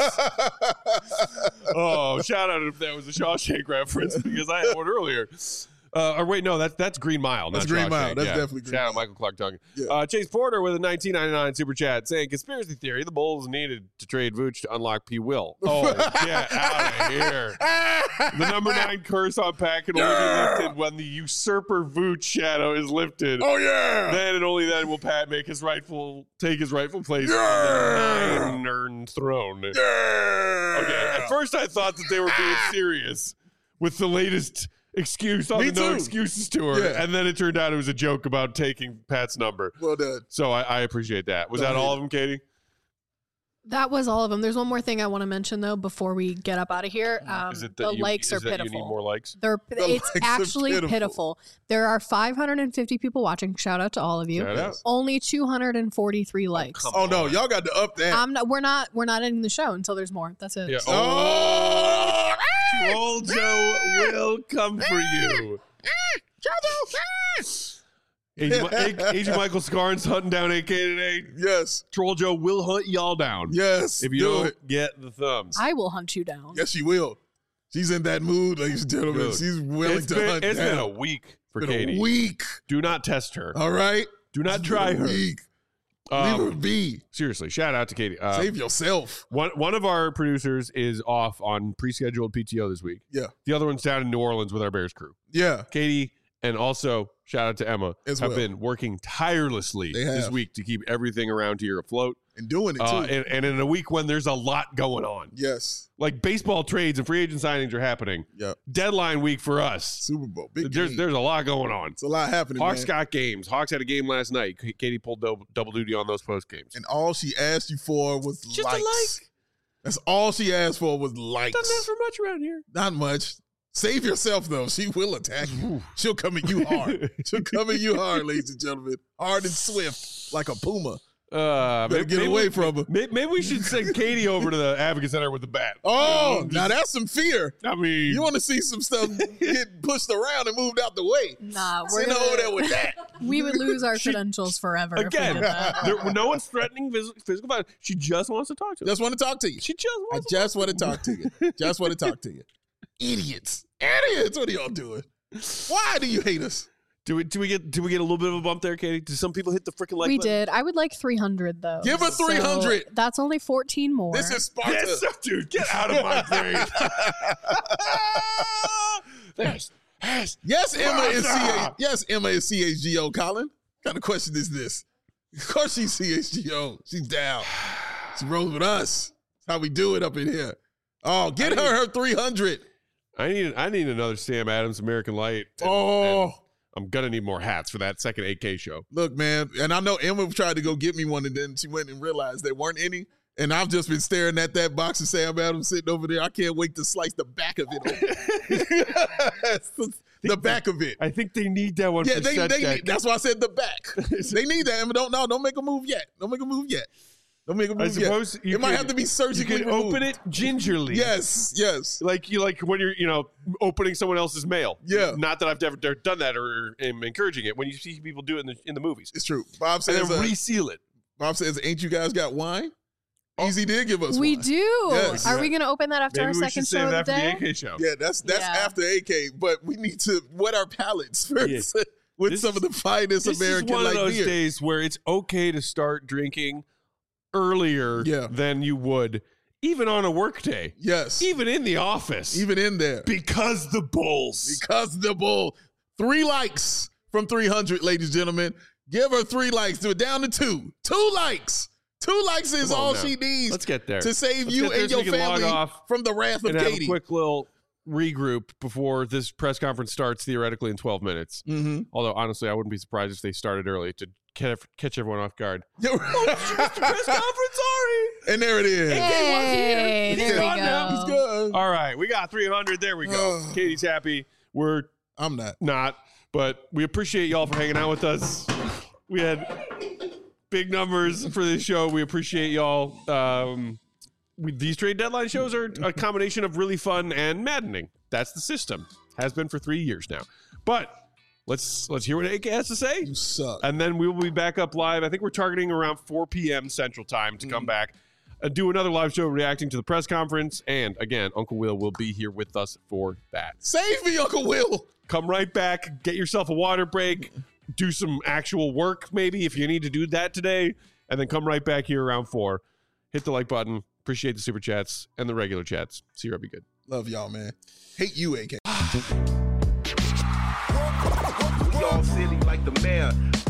Oh, shout out if that was a Shawshank reference because I had one earlier. Or wait, no, that's Green Mile. That's not Green Shawshank. Mile. That's definitely Green Shout Mile. out Michael Clark Duncan. Yeah. Chase Porter with a $19.99 super chat saying, "Conspiracy theory: the Bulls needed to trade Vooch to unlock P. Will." Oh, get out of here! The number 9 curse on Pat can only be lifted when the usurper Vooch shadow is lifted. Oh yeah! Then and only then will Pat take his rightful place on the 9 throne. Yeah! Okay. At first, I thought that they were being serious with the latest excuse on Me the No too. Excuses tour, Yeah. and then it turned out it was a joke about taking Pat's number. Well done. So I appreciate that. Was Don't that all hate of them, Katie? That was all of them. There's one more thing I want to mention though before we get up out of here. Is it The that likes are is that pitiful. You need more likes? It's likes are actually pitiful. pitiful. There are 550 people watching. Shout out to all of you. Shout out. Only 243 likes. come Oh no, on. y'all got to up that. We're not ending the show until there's more. That's it. Yeah. Oh! Troll Joe will come for you. Agent Michael Scarn's hunting down AK today. Yes. Troll Joe will hunt y'all down. Yes. If you do don't it. get the thumbs. I will hunt you down. Yes, you will. She's in that mood, ladies and gentlemen. Dude, She's willing to hunt It's down. been a week for Been Katie. a week. Do not test her. All right? Do not It's try been a her. week. Leave her be. Seriously, shout out to Katie. Save yourself. One of our producers is off on pre-scheduled PTO this week. Yeah. The other one's down in New Orleans with our Bears crew. Yeah. Katie and also shout out to Emma As have well. been working tirelessly They this have. week to keep everything around here afloat. And doing it, too. And in a week when there's a lot going on. Yes. Like baseball trades and free agent signings are happening. Yep. Deadline week for us. Super Bowl. Big There's game. a lot going on. It's a lot happening, Hawks man. got games. Hawks had a game last night. Katie pulled double duty on those post games. And all she asked you for was Just likes. a like. That's all she asked for was likes. Doesn't ask for much around here. Not much. Save yourself, though. She will attack you. She'll come at you hard. She'll come at you hard, ladies and gentlemen. Hard and swift, like a puma. Better get away from her. Maybe we should send Katie over to the Advocate Center with the bat. Oh, now that's some fear. I mean, You want to see some stuff get pushed around and moved out the way. Nah, we're Send her over there gonna, with that. we would lose our credentials forever. if we again, did that. no one's threatening physical violence. She just wants to talk to us. Just want to talk to you. She just I wants just want to talk to you. Just want to talk to you. Idiots. Idiots. What are y'all doing? Why do you hate us? Do we get a little bit of a bump there, Katie? Did some people hit the freaking like We button? did. I would like 300 though. Give her 300. So that's only 14 more. This is Sparta. Yes, dude, get out of my grave. Yes, Emma is Sparta. Yes, Emma is CHGO, Colin. What kind of question is this? Of course she's CHGO. She's down. She rolls with us. That's how we do it up in here. Oh, get her 300. I need another Sam Adams American Light. And I'm gonna need more hats for that second 8K show. Look, man, and I know Emma tried to go get me one, and then she went and realized there weren't any. And I've just been staring at that box of Sam Adams sitting over there. I can't wait to slice the back of it open. The back of it. I think they need that one. Yeah, for they Setback. need, that's why I said the back. They need that. Emma, don't make a move yet. Don't make a move yet. Don't make a move I suppose yet. you It might could- have to be You surgically can open it gingerly. Yes. Like when you're opening someone else's mail. Yeah. Not that I've ever done that or am encouraging it. When you see people do it in the movies, It's true. Bob and says, then reseal it. ain't you guys got wine? Easy did give us we wine. do. Yes. Are we going to open that after Maybe our we second should save show of that the for day? the AK show. Yeah, that's Yeah. after AK, but we need to wet our palates first with This some of the finest This American is one light of those beer. days where it's okay to start drinking earlier Yeah. than you would, even on a work day, Yes. even in the office, Even in there. because the Bulls. Because the bull. 3 likes from 300, ladies and gentlemen. Give her 3 likes. Do it down to 2. 2 likes. 2 likes is Come on all now. she needs Let's get there. to save Let's you get there and so your we can log family off from the wrath of and have Katie. a quick little regroup before this press conference starts theoretically in 12 minutes. Mm-hmm. Although, honestly, I wouldn't be surprised if they started early to catch everyone off guard. press Press conference, sorry. And there it is. Hey, He's there we gone now. go. He's good. All right, we got 300. There we go. Katie's happy. We're I'm not. not, but we appreciate y'all for hanging out with us. We had big numbers for this show. We appreciate y'all. These trade deadline shows are a combination of really fun and maddening. That's the system. Has been for 3 years now. But let's hear what AK has to say. You suck. And then we will be back up live. I think we're targeting around 4 p.m. Central Time to come back and do another live show reacting to the press conference. And again, Uncle Will will be here with us for that. Save me, Uncle Will. Come right back, get yourself a water break, do some actual work maybe if you need to do that today, and then come right back here around 4. Hit the like button. Appreciate the super chats and the regular chats. See you, be good. Love y'all, man. Hate you, AK. We all silly like the mayor.